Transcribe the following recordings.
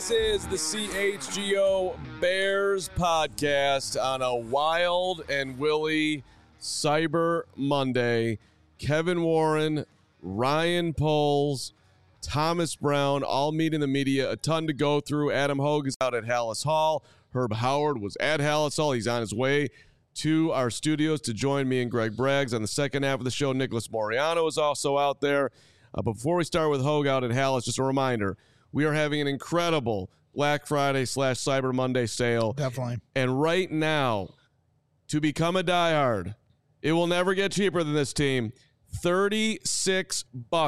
This is the CHGO Bears podcast on a wild and willy Cyber Monday. Kevin Warren, Ryan Poles, Thomas Brown, all meeting the media. A ton to go through. Adam Hogue is out at Hallis Hall. Herb Howard was at Hallis Hall. He's on his way to our studios to join me and Greg Braggs on the second half of the show. Nicholas Moriano is also out there. But before we start with Hogue out at Hallis, just a reminder, we are having an incredible Black Friday / Cyber Monday sale. Definitely. And right now, to become a diehard, it will never get cheaper than this team. $36.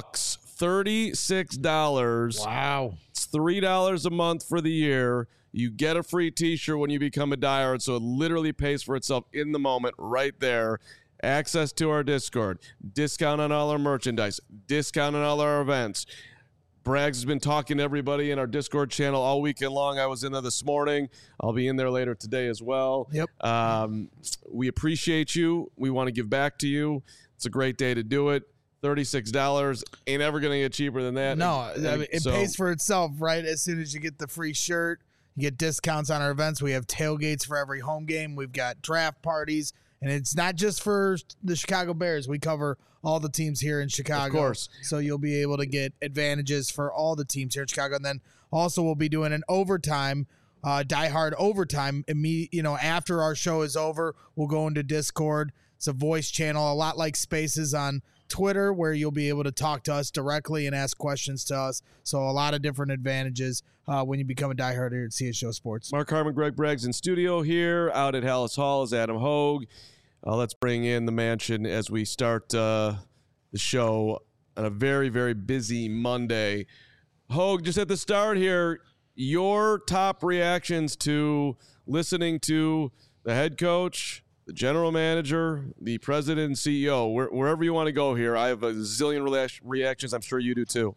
$36. Wow. It's $3 a month for the year. You get a free t-shirt when you become a diehard, so it literally pays for itself in the moment right there. Access to our Discord, discount on all our merchandise, discount on all our events. Braggs has been talking to everybody in our Discord channel all weekend long. I was in there this morning. I'll be in there later today as well. Yep. We appreciate you. We want to give back to you. It's a great day to do it. $36 ain't ever going to get cheaper than that. No, I mean, it pays for itself, right? As soon as you get the free shirt, you get discounts on our events. We have tailgates for every home game. We've got draft parties. And it's not just for the Chicago Bears. We cover all the teams here in Chicago. Of course. So you'll be able to get advantages for all the teams here in Chicago. And then also we'll be doing an overtime, diehard overtime. After our show is over, we'll go into Discord. It's a voice channel, a lot like Spaces on Twitter, where you'll be able to talk to us directly and ask questions to us. So a lot of different advantages when you become a diehard here at CHGO Sports. Mark Harmon, Greg Braggs in studio here. Out at Hallis Hall is Adam Hogue. Let's bring in the mansion as we start the show on a very, very busy Monday. Hogue, just at the start here, your top reactions to listening to the head coach, the general manager, the president and CEO, wherever you want to go here. I have a zillion reactions. I'm sure you do too.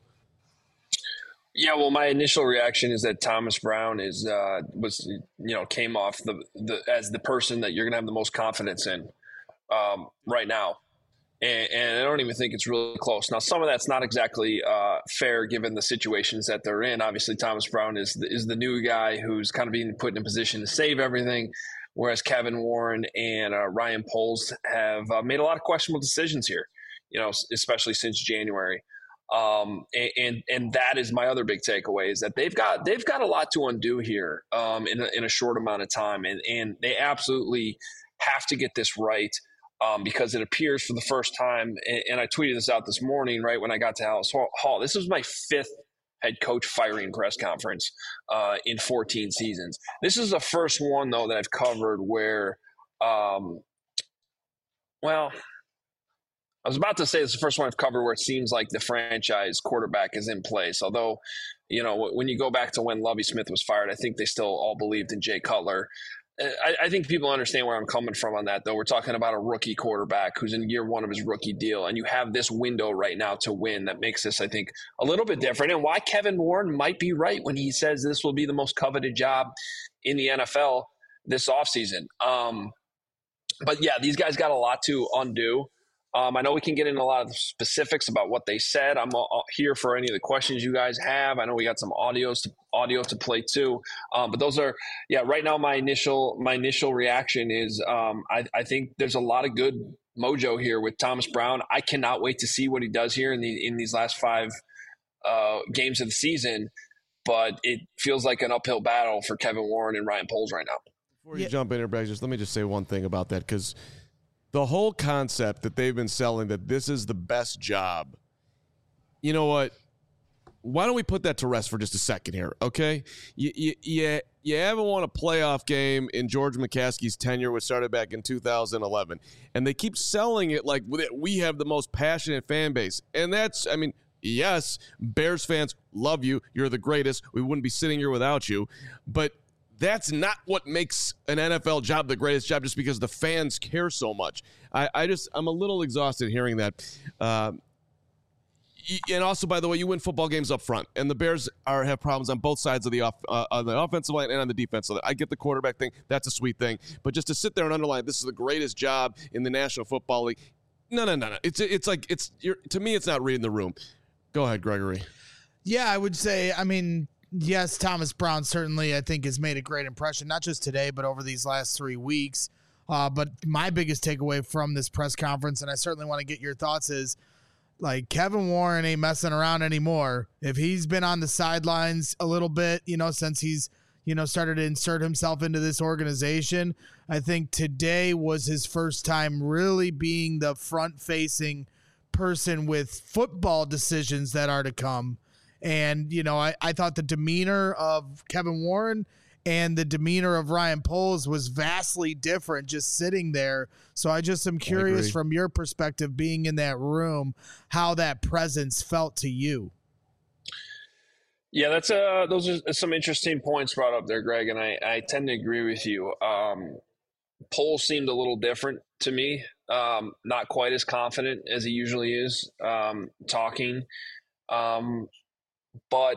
Yeah, well, my initial reaction is that Thomas Brown came off as the person that you're going to have the most confidence in right now, and I don't even think it's really close. Now, some of that's not exactly fair given the situations that they're in. Obviously, Thomas Brown is the new guy who's kind of being put in a position to save everything, whereas Kevin Warren and Ryan Poles have made a lot of questionable decisions here, especially since January. And that is my other big takeaway, is that they've got a lot to undo here in a short amount of time, and they absolutely have to get this right because it appears for the first time, and I tweeted this out this morning right when I got to Hallis Hall. This was my 5th head coach firing press conference in 14 seasons. This is the first one though that I've covered where, I was about to say it's the first one I've covered where it seems like the franchise quarterback is in place. Although, when you go back to when Lovie Smith was fired, I think they still all believed in Jay Cutler. I think people understand where I'm coming from on that, though. We're talking about a rookie quarterback who's in year 1 of his rookie deal, and you have this window right now to win that makes this, I think, a little bit different. And why Kevin Warren might be right when he says this will be the most coveted job in the NFL this offseason. But yeah, these guys got a lot to undo. I know we can get into a lot of the specifics about what they said. I'm here for any of the questions you guys have. I know we got some audio to play too. But those are, right now my initial reaction is I think there's a lot of good mojo here with Thomas Brown. I cannot wait to see what he does here in these last 5 games of the season. But it feels like an uphill battle for Kevin Warren and Ryan Poles right now. Before you jump in here, Braggs, let me just say one thing about that, because the whole concept that they've been selling that this is the best job, you know what? Why don't we put that to rest for just a second here, okay? You haven't won a playoff game in George McCaskey's tenure, which started back in 2011, and they keep selling it like we have the most passionate fan base. And that's, yes, Bears fans love you. You're the greatest. We wouldn't be sitting here without you. But that's not what makes an NFL job the greatest job, just because the fans care so much. I'm a little exhausted hearing that. And also, by the way, you win football games up front, and the Bears have problems on both sides of the offensive line and on the defensive line. I get the quarterback thing; that's a sweet thing. But just to sit there and underline this is the greatest job in the National Football League, no. To me, it's not reading the room. Go ahead, Gregory. Yeah, I would say. yes, Thomas Brown certainly, I think, has made a great impression, not just today, but over these last 3 weeks. But my biggest takeaway from this press conference, and I certainly want to get your thoughts, is like Kevin Warren ain't messing around anymore. If he's been on the sidelines a little bit, since he's, started to insert himself into this organization, I think today was his first time really being the front-facing person with football decisions that are to come. And, I thought the demeanor of Kevin Warren and the demeanor of Ryan Poles was vastly different just sitting there. So I just am curious from your perspective, being in that room, how that presence felt to you. Yeah, those are some interesting points brought up there, Greg, and I tend to agree with you. Poles seemed a little different to me, not quite as confident as he usually is talking. But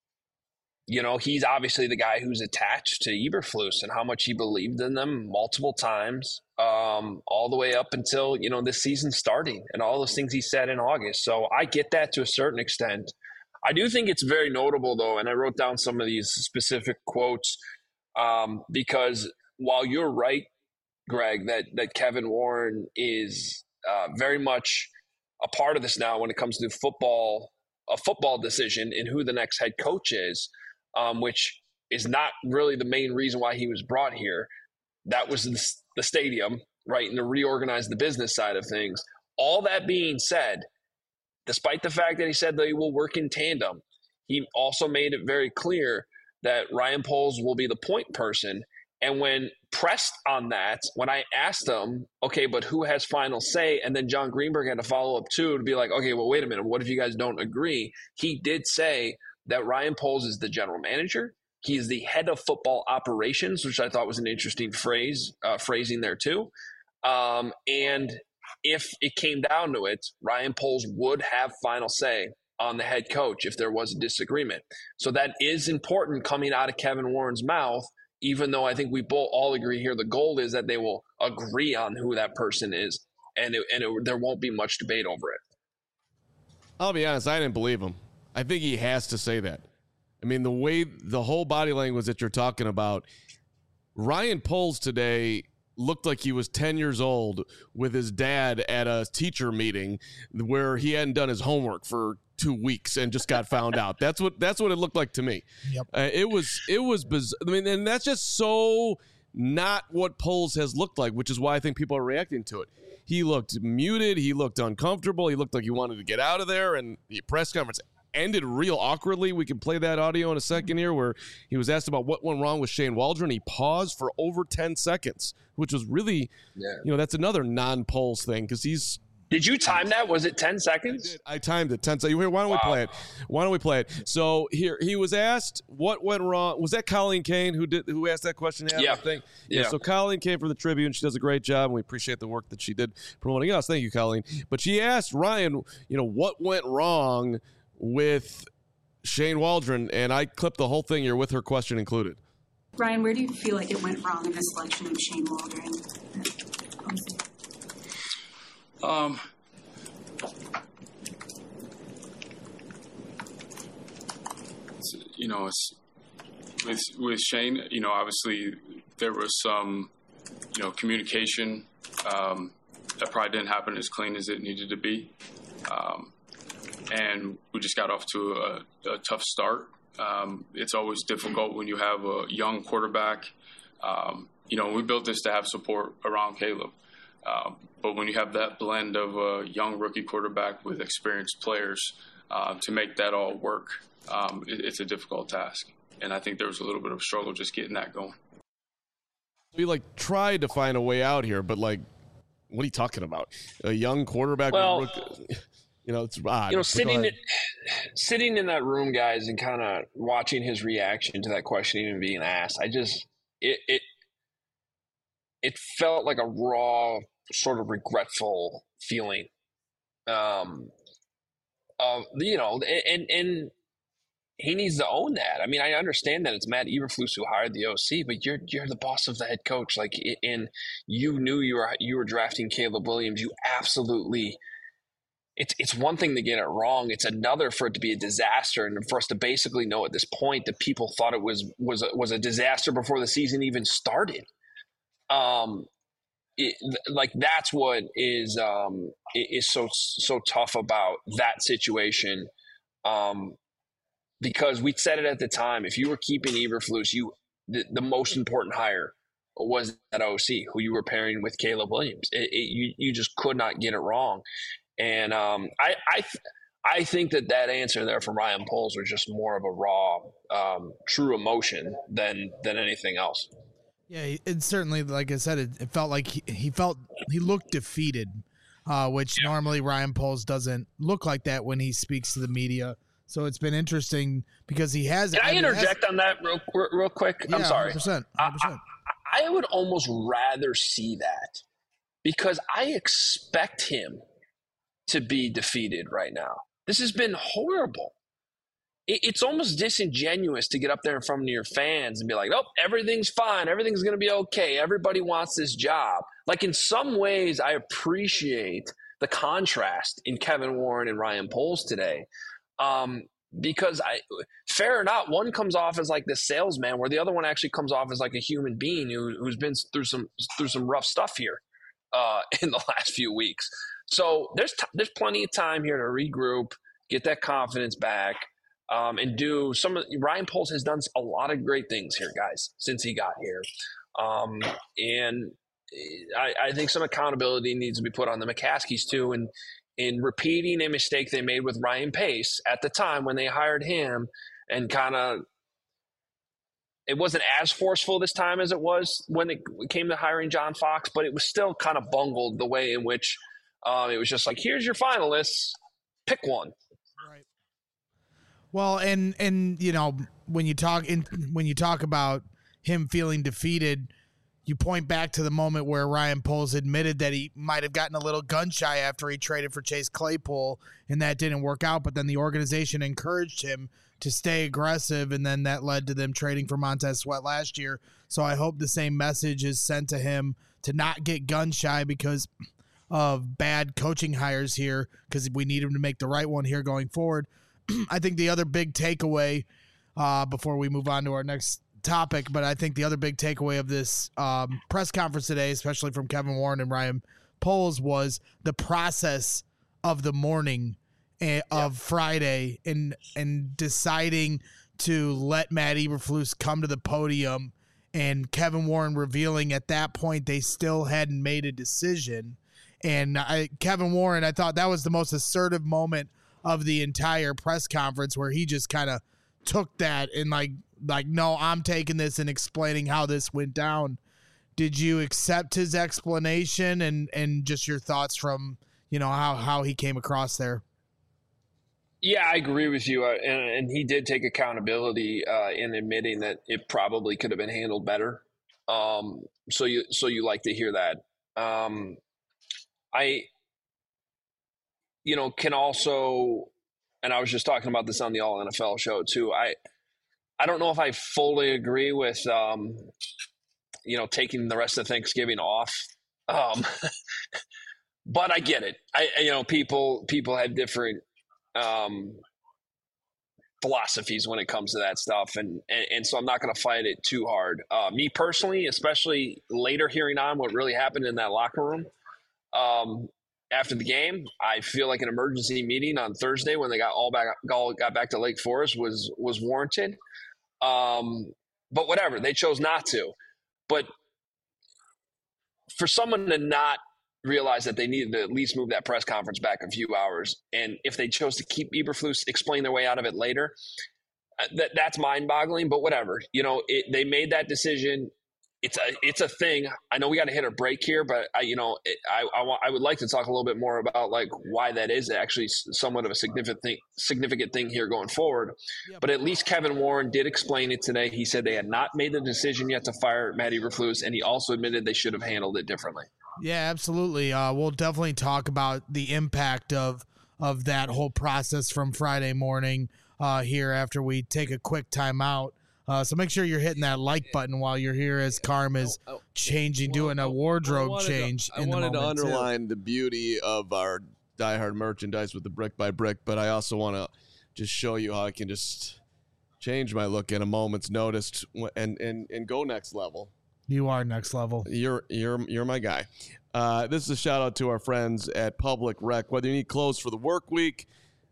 he's obviously the guy who's attached to Eberflus and how much he believed in them multiple times, all the way up until, this season starting and all those things he said in August. So I get that to a certain extent. I do think it's very notable, though, and I wrote down some of these specific quotes because while you're right, Greg, that Kevin Warren is very much a part of this now when it comes to a football decision in who the next head coach is, which is not really the main reason why he was brought here. That was the stadium, right, and to reorganize the business side of things. All that being said, despite the fact that he said that he will work in tandem, he also made it very clear that Ryan Poles will be the point person. And when pressed on that, when I asked him, okay, but who has final say? And then John Greenberg had to follow up too to be like, okay, well, wait a minute. What if you guys don't agree? He did say that Ryan Poles is the general manager. He is the head of football operations, which I thought was an interesting phrasing there too. And if it came down to it, Ryan Poles would have final say on the head coach if there was a disagreement. So that is important coming out of Kevin Warren's mouth, even though I think we both all agree here the goal is that they will agree on who that person is, and there won't be much debate over it. I'll be honest, I didn't believe him. I think he has to say that. I mean, the whole body language that you're talking about, Ryan Poles today looked like he was 10 years old with his dad at a teacher meeting where he hadn't done his homework for 2 weeks and just got found out. That's what it looked like to me. Yep. It was bizarre. I mean, and that's just so not what Poles has looked like, which is why I think people are reacting to it. He looked muted. He looked uncomfortable. He looked like he wanted to get out of there. And the press conference ended real awkwardly. We can play that audio in a second here where he was asked about what went wrong with Shane Waldron. He paused for over 10 seconds, which was really, that's another non-Poles thing because he's. Did you time that? Was it 10 seconds? I timed it 10 seconds. Why don't we play it? Why don't we play it? So here he was asked what went wrong. Was that Colleen Kane who asked that question? Yeah. I think. Yeah. So Colleen came from the Tribune. She does a great job, and we appreciate the work that she did promoting us. Thank you, Colleen. But she asked Ryan, what went wrong with Shane Waldron, and I clipped the whole thing here with her question included. Ryan, where do you feel like it went wrong in the selection of Shane Waldron? It's with Shane, obviously there was some, communication that probably didn't happen as clean as it needed to be. And we just got off to a tough start. It's always difficult when you have a young quarterback. We built this to have support around Caleb. But when you have that blend of a young rookie quarterback with experienced players, to make that all work, it's a difficult task. And I think there was a little bit of a struggle just getting that going. We tried to find a way out here, but what are you talking about? A young quarterback? Well, it's odd. Sitting in that room, guys, and kind of watching his reaction to that question even being asked, it felt like a raw, sort of regretful feeling. And he needs to own that. I mean, I understand that it's Matt Eberflus who hired the OC, but you're the boss of the head coach. And you knew you were drafting Caleb Williams. You absolutely it's one thing to get it wrong. It's another for it to be a disaster, and for us to basically know at this point that people thought it was a disaster before the season even started. That's what is so tough about that situation. Because we said it at the time, if you were keeping Eberflus, the most important hire was that OC, who you were pairing with Caleb Williams. You just could not get it wrong. And I think that answer there from Ryan Poles was just more of a raw, true emotion than anything else. Yeah, it certainly, like I said, it felt like he looked defeated, which normally Ryan Poles doesn't look like that when he speaks to the media. So it's been interesting because he has. Can I interject on that real quick? Yeah, I'm sorry. 100%. I would almost rather see that because I expect him to be defeated right now. This has been horrible. It's almost disingenuous to get up there in front of your fans and be like, "Oh, everything's fine. Everything's going to be okay. Everybody wants this job." Like, in some ways, I appreciate the contrast in Kevin Warren and Ryan Poles today. Because fair or not, one comes off as like the salesman, where the other one actually comes off as like a human being who's been through some rough stuff here in the last few weeks. So there's plenty of time here to regroup, get that confidence back, and do some of. Ryan Poles has done a lot of great things here, guys, since he got here, and I think some accountability needs to be put on the McCaskies too, and in repeating a mistake they made with Ryan Pace at the time when they hired him, and kind of it wasn't as forceful this time as it was when it came to hiring John Fox, but it was still kind of bungled the way in which it was just like, here's your finalists, pick one. Right. Well, and you know, when you talk about him feeling defeated, you point back to the moment where Ryan Poles admitted that he might have gotten a little gun shy after he traded for Chase Claypool, and that didn't work out. But then the organization encouraged him to stay aggressive, and then that led to them trading for Montez Sweat last year. So I hope the same message is sent to him to not get gun shy because of bad coaching hires here, because we need him to make the right one here going forward. I think the other big takeaway, before we move on to our next topic, but I think the other big takeaway of this press conference today, especially from Kevin Warren and Ryan Poles, was the process of the morning of Friday and deciding to let Matt Eberflus come to the podium, and Kevin Warren revealing at that point they still hadn't made a decision. And Kevin Warren, I thought that was the most assertive moment of the entire press conference, where he just kind of took that and like, no, I'm taking this, and explaining how this went down. Did you accept his explanation and just your thoughts from, you know, how he came across there? Yeah, I agree with you. And he did take accountability in admitting that it probably could have been handled better. So you like to hear that. I can also, and I was just talking about this on the All NFL show too. I don't know if I fully agree with, taking the rest of Thanksgiving off. But I get it. People have different philosophies when it comes to that stuff. And so I'm not going to fight it too hard. Me personally, especially later hearing on what really happened in that locker room after the game, I feel like an emergency meeting on Thursday when they got back to Lake Forest was warranted. But whatever, they chose not to. But for someone to not realize that they needed to at least move that press conference back a few hours, and if they chose to keep Eberflus, explain their way out of it later, that's mind-boggling. But whatever, they made that decision. It's a thing. I know we got to hit a break here, but I would like to talk a little bit more about like why that is actually somewhat of a significant thing here going forward. Yeah, but at least Kevin Warren did explain it today. He said they had not made the decision yet to fire Matt Eberflus, and he also admitted they should have handled it differently. Yeah, absolutely. We'll definitely talk about the impact of that whole process from Friday morning here after we take a quick timeout. So make sure you're hitting that like button while you're here as Carm is doing a wardrobe change. I wanted to underline the beauty of our Die Hard merchandise with the brick by brick, but I also want to just show you how I can just change my look in a moment's notice and go next level. You are next level. You're my guy. This is a shout out to our friends at Public Rec. Whether you need clothes for the work week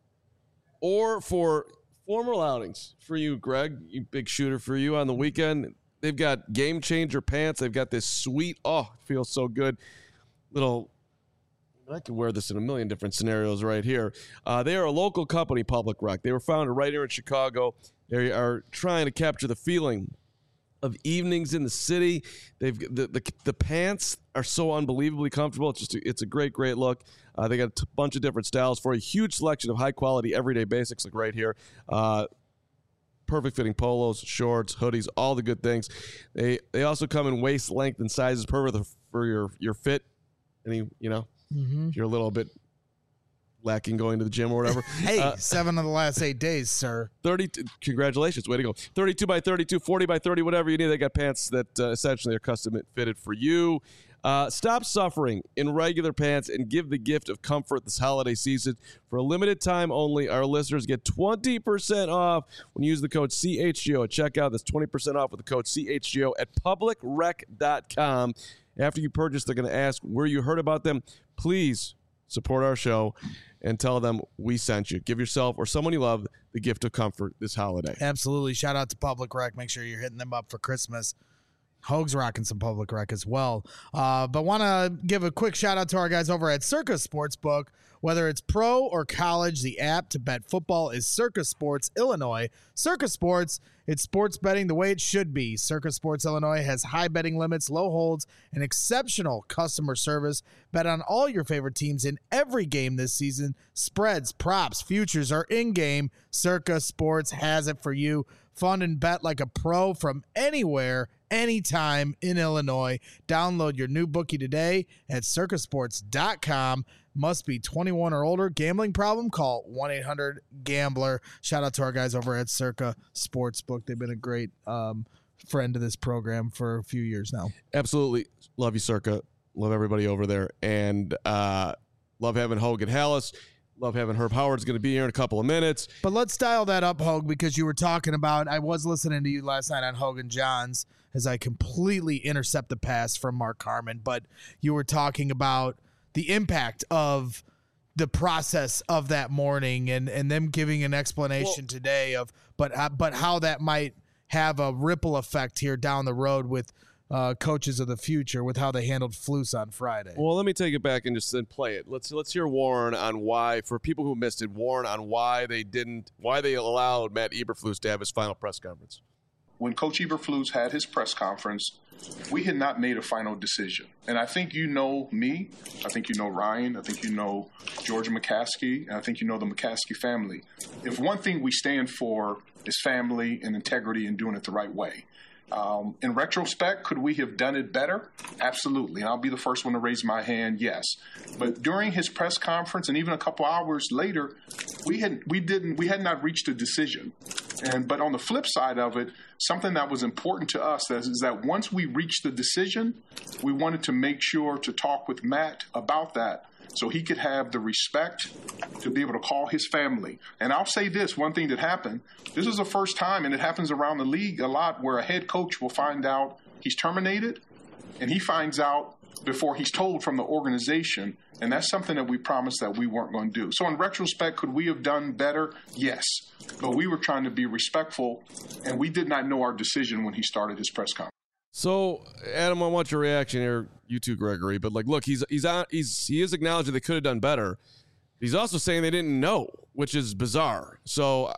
or for formal outings for you, Greg, you big shooter, for you on the weekend, they've got Game Changer pants. They've got this sweet, it feels so good, little, I could wear this in a million different scenarios right here. They are a local company, Public Rec. They were founded right here in Chicago. They are trying to capture the feeling of evenings in the city. They've the pants are so unbelievably comfortable. It's a great look. They got a bunch of different styles for a huge selection of high quality everyday basics, like right here. Perfect fitting polos, shorts, hoodies, all the good things. They also come in waist length and sizes perfect for your fit. If you're a little bit lacking going to the gym or whatever. Hey, 7 of the last 8 days, sir. 30. Congratulations. Way to go. 32 by 32, 40 by 30, whatever you need. They got pants that essentially are custom fitted for you. Stop suffering in regular pants and give the gift of comfort this holiday season. For a limited time only, our listeners get 20% off when you use the code CHGO at checkout. That's 20% off with the code CHGO at publicrec.com. After you purchase, they're going to ask where you heard about them. Please support our show and tell them we sent you. Give yourself or someone you love the gift of comfort this holiday. Absolutely. Shout out to Public Rec. Make sure you're hitting them up for Christmas. Hoag's rocking some Public Rec as well. But want to give a quick shout out to our guys over at Circa Sportsbook. Whether it's pro or college, the app to bet football is Circa Sports Illinois. Circa Sports, it's sports betting the way it should be. Circa Sports Illinois has high betting limits, low holds, and exceptional customer service. Bet on all your favorite teams in every game this season. Spreads, props, futures are in-game. Circa Sports has it for you. Fun and bet like a pro from anywhere, anytime in Illinois. Download your new bookie today at circasports.com. Must be 21 or older. Gambling problem? Call 1-800-GAMBLER. Shout out to our guys over at Circa Sportsbook. They've been a great friend to this program for a few years now. Absolutely. Love you, Circa. Love everybody over there. And love having Hogan Hallis. Love having Herb Howard's going to be here in a couple of minutes. But let's dial that up, Hogue, because you were talking about, I was listening to you last night on Hogan Johns as I completely intercept the pass from Mark Carman, but you were talking about the impact of the process of that morning and them giving an explanation today of, but how that might have a ripple effect here down the road with coaches of the future with how they handled Flus on Friday. Well, let me take it back and just then play it. Let's hear Warren on why, for people who missed it, Warren on why they allowed Matt Eberflus to have his final press conference. When Coach Eberflus had his press conference, we had not made a final decision. And I think you know me. I think you know Ryan. I think you know Georgia McCaskey. And I think you know the McCaskey family. If one thing we stand for is family and integrity and doing it the right way. In retrospect, could we have done it better? Absolutely. And I'll be the first one to raise my hand, yes. But during his press conference and even a couple hours later, we had not reached a decision. But on the flip side of it, something that was important to us is that once we reached the decision, we wanted to make sure to talk with Matt about that so he could have the respect to be able to call his family. And I'll say this, one thing that happened, this is the first time, and it happens around the league a lot, where a head coach will find out he's terminated, and he finds out before he's told from the organization, and that's something that we promised that we weren't going to do. So in retrospect, could we have done better? Yes. But we were trying to be respectful, and we did not know our decision when he started his press conference. So, Adam, I want your reaction here, you too, Gregory. But look, he is acknowledging they could have done better. He's also saying they didn't know, which is bizarre. So,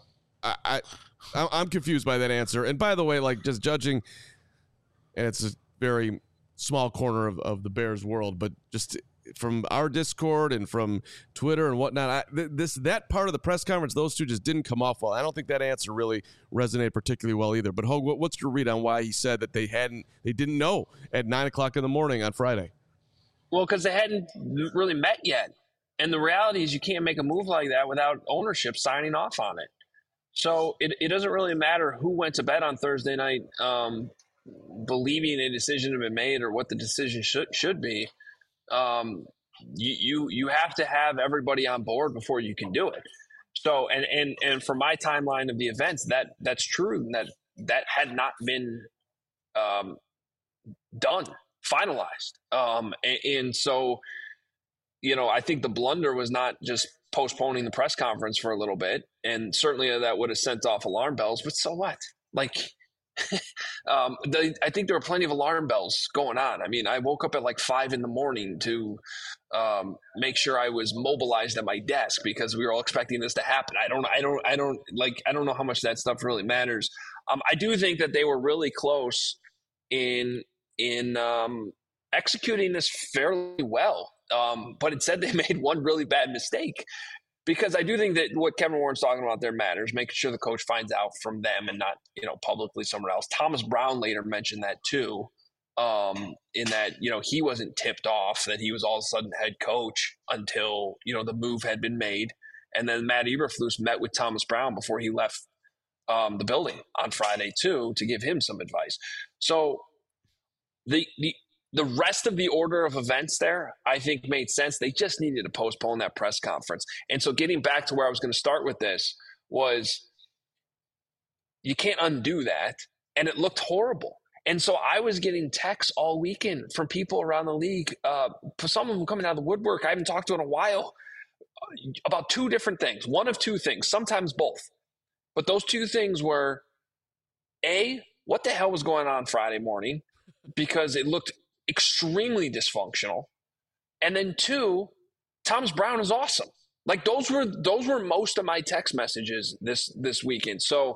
I'm confused by that answer. And by the way, just judging, and it's a very small corner of the Bears world, but just from our Discord and from Twitter and whatnot, that part of the press conference, those two just didn't come off well. I don't think that answer really resonated particularly well either. But Hogue, what's your read on why he said that they didn't know at 9:00 in the morning on Friday? Well, because they hadn't really met yet. And the reality is you can't make a move like that without ownership signing off on it. So it doesn't really matter who went to bed on Thursday night believing a decision had been made or what the decision should be. You have to have everybody on board before you can do it. So and for my timeline of the events, that's true. That had not been done, finalized. And so, I think the blunder was not just postponing the press conference for a little bit, and certainly that would have sent off alarm bells. But so what? Like, I think there were plenty of alarm bells going on. I mean, I woke up at like 5 a.m. to make sure I was mobilized at my desk because we were all expecting this to happen. I don't know how much that stuff really matters. I do think that they were really close in executing this fairly well. But it said they made one really bad mistake, because I do think that what Kevin Warren's talking about there matters, making sure the coach finds out from them and not, publicly somewhere else. Thomas Brown later mentioned that too, in that, he wasn't tipped off that he was all of a sudden head coach until, the move had been made. And then Matt Eberflus met with Thomas Brown before he left the building on Friday too, to give him some advice. So the rest of the order of events there, I think, made sense. They just needed to postpone that press conference. And so getting back to where I was going to start with this was, you can't undo that. And it looked horrible. And so I was getting texts all weekend from people around the league, for some of them coming out of the woodwork I haven't talked to in a while, about two different things. One of two things, sometimes both. But those two things were, A, what the hell was going on Friday morning? Because it looked extremely dysfunctional. And then 2, Thomas Brown is awesome. Like, those were most of my text messages this weekend. So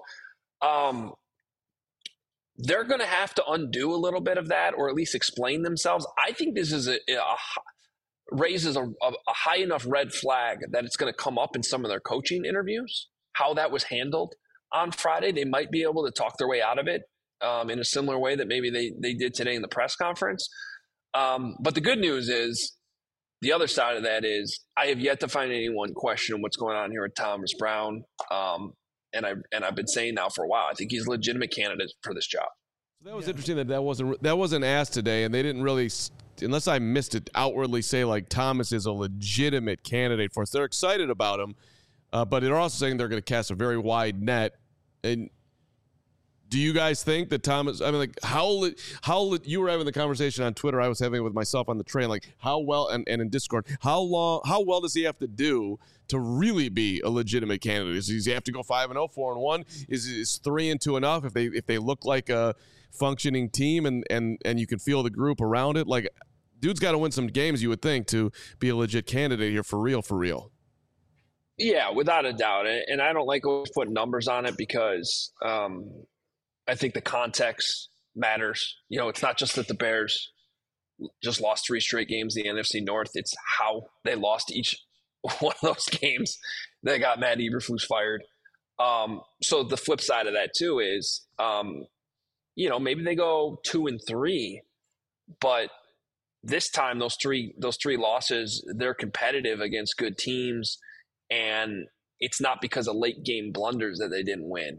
they're going to have to undo a little bit of that, or at least explain themselves. I think this is raises a high enough red flag that it's going to come up in some of their coaching interviews, how that was handled on Friday. They might be able to talk their way out of it in a similar way that maybe they did today in the press conference. But the good news is, the other side of that is, I have yet to find anyone question what's going on here with Thomas Brown. And I've been saying now for a while, I think he's a legitimate candidate for this job. So that was interesting that wasn't asked today, and they didn't really, unless I missed it, outwardly say like Thomas is a legitimate candidate for us. They're excited about him, but they're also saying they're going to cast a very wide net. And do you guys think that Thomas, I mean, like, how you were having the conversation on Twitter, I was having it with myself on the train, like, how well, and in Discord, how well does he have to do to really be a legitimate candidate? Does he have to go 5-0, 4-1? Is 3-2 enough if they look like a functioning team and you can feel the group around it? Like, dude's got to win some games, you would think, to be a legit candidate here for real. Yeah, without a doubt. And I don't like always putting numbers on it, because I think the context matters. It's not just that the Bears just lost 3 straight games in the NFC North. It's how they lost each one of those games that got Matt Eberflus fired. So the flip side of that too is, maybe they go 2-3, but this time those three losses, they're competitive against good teams, and it's not because of late game blunders that they didn't win.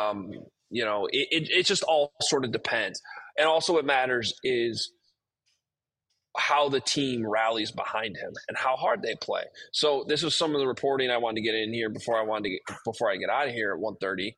It just all sort of depends. And also what matters is how the team rallies behind him and how hard they play. So this was some of the reporting I wanted to get in here before I get out of here at 1:30.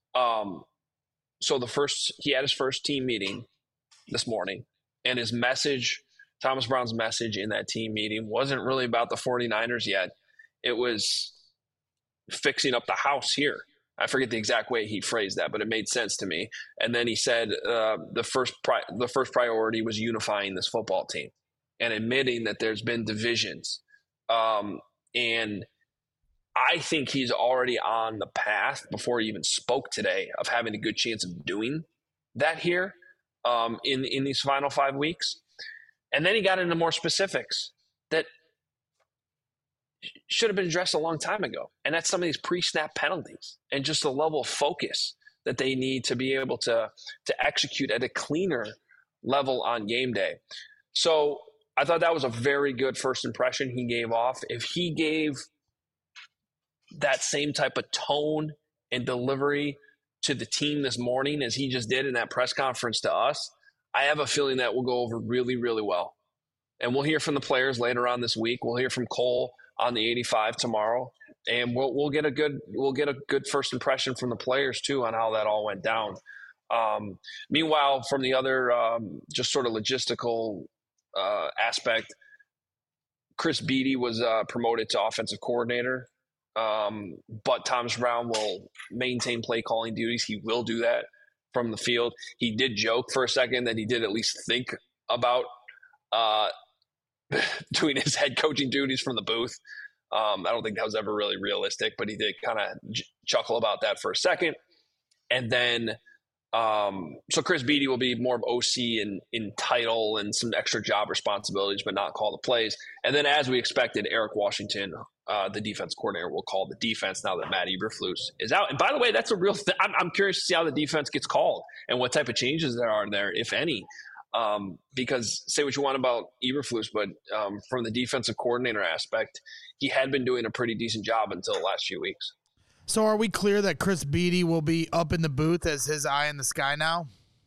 So he had his first team meeting this morning, and his message, Thomas Brown's message in that team meeting, wasn't really about the 49ers yet. It was fixing up the house here. I forget the exact way he phrased that, but it made sense to me. And then he said the first priority was unifying this football team and admitting that there's been divisions. And I think he's already on the path, before he even spoke today, of having a good chance of doing that here in these final 5 weeks. And then he got into more specifics that should have been addressed a long time ago. And that's some of these pre-snap penalties and just the level of focus that they need to be able to execute at a cleaner level on game day. So I thought that was a very good first impression he gave off. If he gave that same type of tone and delivery to the team this morning as he just did in that press conference to us, I have a feeling that will go over really, really well. and we'll hear from the players later on this week. We'll hear from Cole on the 85 tomorrow, and we'll get a good first impression from the players too on how that all went down. Meanwhile, from the other just sort of logistical aspect, Chris Beatty was promoted to offensive coordinator, but Thomas Brown will maintain play calling duties. He will do that from the field. He did joke for a second that he did at least think about doing his head coaching duties from the booth. I don't think that was ever really realistic, but he did kind of chuckle about that for a second. And then, so Chris Beatty will be more of OC in title and some extra job responsibilities, but not call the plays. And then, as we expected, Eric Washington, the defense coordinator, will call the defense now that Matt Eberflus is out. And by the way, that's a real thing. I'm curious to see how the defense gets called and what type of changes there are there, if any. Because say what you want about Eberflus, but from the defensive coordinator aspect, he had been doing a pretty decent job until the last few weeks. So are we clear that Chris Beatty will be up in the booth as his eye in the sky now?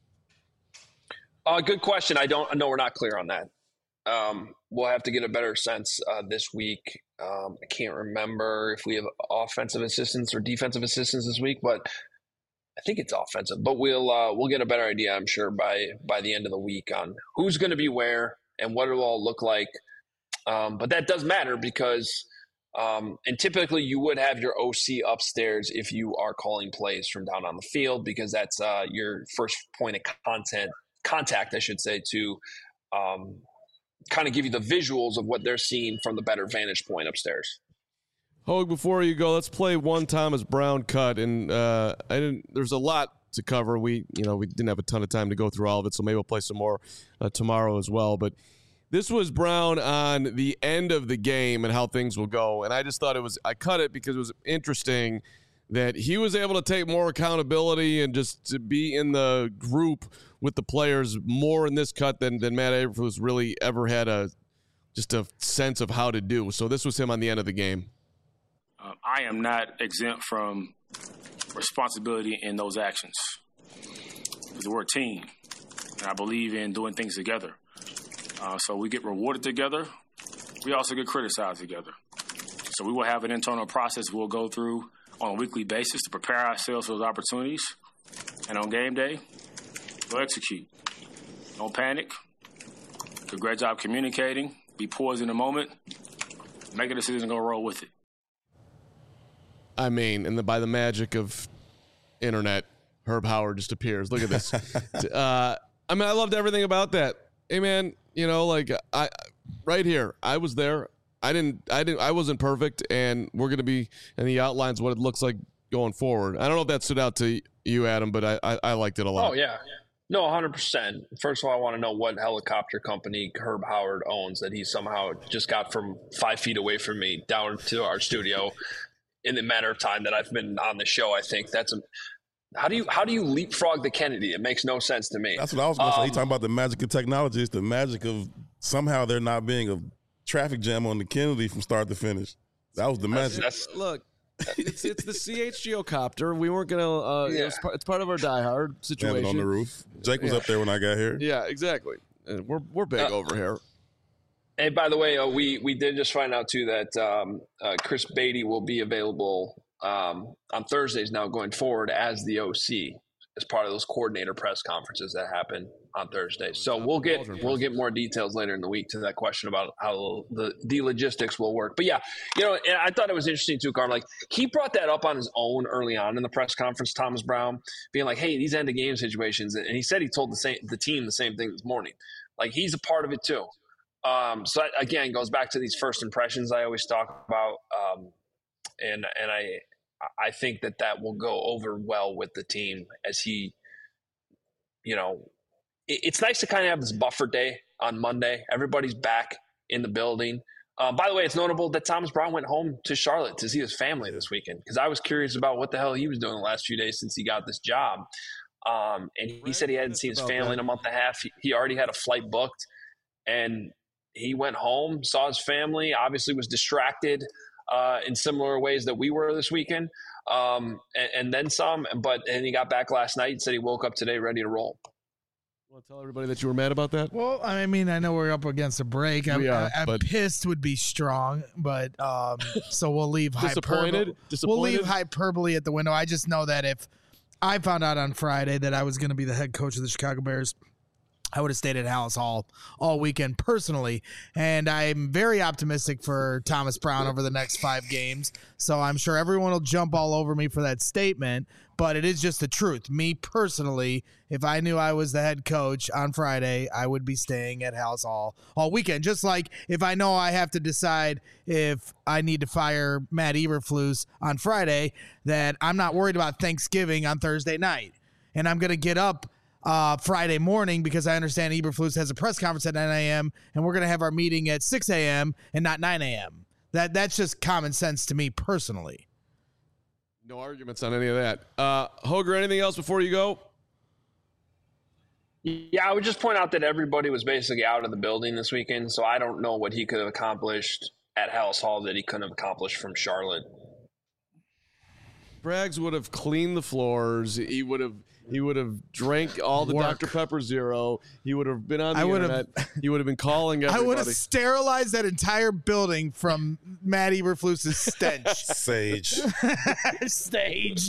Good question. I know we're not clear on that. We'll have to get a better sense this week. I can't remember if we have offensive assistants or defensive assistants this week, but I think it's offensive. But we'll get a better idea, I'm sure, by the end of the week on who's going to be where and what it'll all look like. But that does matter because and typically you would have your OC upstairs if you are calling plays from down on the field, because that's your first point of contact, I should say, to kind of give you the visuals of what they're seeing from the better vantage point upstairs. Hogue, before you go, let's play one Thomas Brown cut. And there's a lot to cover. We didn't have a ton of time to go through all of it, so maybe we'll play some more tomorrow as well. But this was Brown on the end of the game and how things will go. And I just thought I cut it because it was interesting that he was able to take more accountability and just to be in the group with the players more in this cut than Matt Eberflus really ever had just a sense of how to do. So this was him on the end of the game. I am not exempt from responsibility in those actions. Because we're a team, and I believe in doing things together. So we get rewarded together. We also get criticized together. So we will have an internal process we'll go through on a weekly basis to prepare ourselves for those opportunities. And on game day, we'll execute. Don't panic. Do a great job communicating. Be poised in the moment. Make a decision and go roll with it. I mean, and by the magic of internet, Herb Howard just appears. Look at this. I loved everything about that. Hey, man, I right here, I was there. I wasn't perfect, and we're going to be, and he outlines what it looks like going forward. I don't know if that stood out to you, Adam, but I liked it a lot. Oh, yeah. No, 100%. First of all, I want to know what helicopter company Herb Howard owns that he somehow just got from 5 feet away from me down to our studio in the matter of time that I've been on the show. I think that's how do you leapfrog the Kennedy? It makes no sense to me. That's what I was going to say. He's talking about the magic of technology. It's the magic of somehow there not being a traffic jam on the Kennedy from start to finish. That was the magic. Look, it's the CHGO copter. We weren't going to it's part of our diehard situation. Have it on the roof. Jake was up there when I got here. Yeah, exactly. And we're big over here. And by the way, we did just find out too that Chris Beatty will be available on Thursdays now going forward as the OC as part of those coordinator press conferences that happen on Thursdays. So we'll get more details later in the week to that question about how the logistics will work. But yeah, and I thought it was interesting too, Carm. Like he brought that up on his own early on in the press conference, Thomas Brown, being like, "Hey, these end of game situations," and he said he told the team the same thing this morning. Like he's a part of it too. So that, again, goes back to these first impressions I always talk about, and I think that will go over well with the team as he, it's nice to kind of have this buffer day on Monday. Everybody's back in the building. By the way, it's notable that Thomas Brown went home to Charlotte to see his family this weekend because I was curious about what the hell he was doing the last few days since he got this job. And he said he hadn't seen his family in a month and a half. He already had a flight booked, and he went home, saw his family, obviously was distracted in similar ways that we were this weekend, and then some. And he got back last night and said he woke up today ready to roll. Want to tell everybody that you were mad about that? Well, I mean, I know we're up against a break. I'm but pissed would be strong, but so we'll leave disappointed. We'll leave hyperbole at the window. I just know that if I found out on Friday that I was going to be the head coach of the Chicago Bears, I would have stayed at Hallis Hall all weekend personally, and I'm very optimistic for Thomas Brown over the next 5 games. So I'm sure everyone will jump all over me for that statement, but it is just the truth. Me personally, if I knew I was the head coach on Friday, I would be staying at Hallis Hall all weekend. Just like if I know I have to decide if I need to fire Matt Eberflus on Friday, that I'm not worried about Thanksgiving on Thursday night, and I'm going to get up Friday morning because I understand Eberflus has a press conference at 9 a.m. and we're going to have our meeting at 6 a.m. and not 9 a.m. That's just common sense to me personally. No arguments on any of that. Hoger, anything else before you go? Yeah, I would just point out that everybody was basically out of the building this weekend, so I don't know what he could have accomplished at Hallis Hall that he couldn't have accomplished from Charlotte. Braggs would have cleaned the floors. He would have drank all the Dr. Pepper Zero. He would have been on the internet. He would have been calling everybody. I would have sterilized that entire building from Matt Eberflus's stench. Sage. Sage.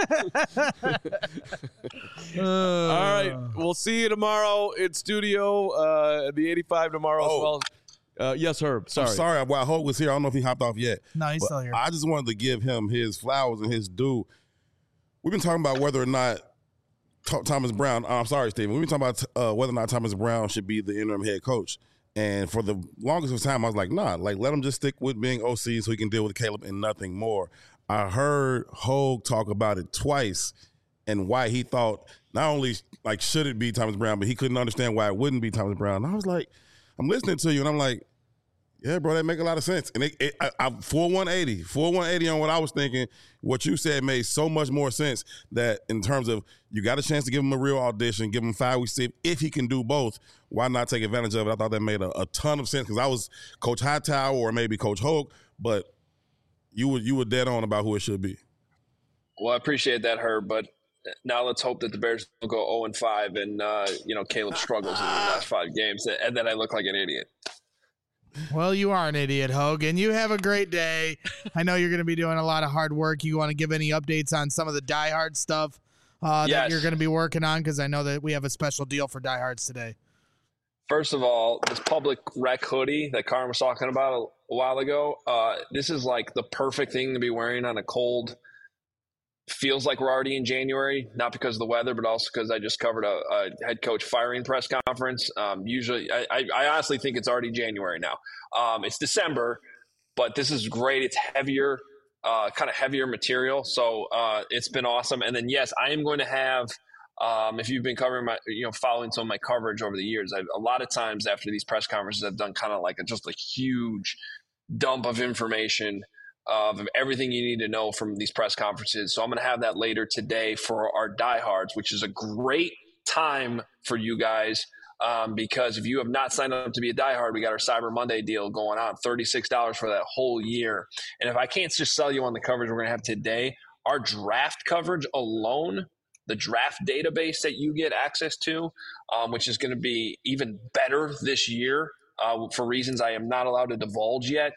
All right. We'll see you tomorrow in studio, the 85 tomorrow as well. Yes, Herb. Sorry. I'm sorry. While Hope was here, I don't know if he hopped off yet. No, he's still here. I just wanted to give him his flowers and his due. We've been talking about whether or not Thomas Brown, I'm sorry, Stephen. We've been talking about whether or not Thomas Brown should be the interim head coach. And for the longest of time, I was like, nah, let him just stick with being OC so he can deal with Caleb and nothing more. I heard Hogue talk about it twice and why he thought not only should it be Thomas Brown, but he couldn't understand why it wouldn't be Thomas Brown. And I was like, I'm listening to you, and I'm like, yeah, bro, that make a lot of sense. And I 4-180 on what I was thinking. What you said made so much more sense that in terms of you got a chance to give him a real audition, give him 5 weeks, see if he can do both, why not take advantage of it? I thought that made a ton of sense because I was Coach Hightower or maybe Coach Hogue, but you were dead on about who it should be. Well, I appreciate that, Herb, but now let's hope that the Bears will go 0-5 and, Caleb struggles in the last 5 games and then I look like an idiot. Well, you are an idiot, Hogan. You have a great day. I know you're going to be doing a lot of hard work. You want to give any updates on some of the Die Hard stuff that you're going to be working on? Because I know that we have a special deal for Die Hards today. First of all, this public rec hoodie that Karin was talking about a while ago, this is like the perfect thing to be wearing on a cold. Feels like we're already in January, not because of the weather, but also because I just covered a head coach firing press conference. Usually, I honestly think it's already January now. It's December, but this is great. It's heavier, kind of heavier material. So it's been awesome. And then, yes, I am going to have, if you've been covering following some of my coverage over the years, a lot of times after these press conferences, I've done kind of like just a huge dump of information of everything you need to know from these press conferences. So I'm going to have that later today for our diehards, which is a great time for you guys because if you have not signed up to be a diehard, we got our Cyber Monday deal going on, $36 for that whole year. And if I can't just sell you on the coverage we're going to have today, our draft coverage alone, the draft database that you get access to, which is going to be even better this year for reasons I am not allowed to divulge yet.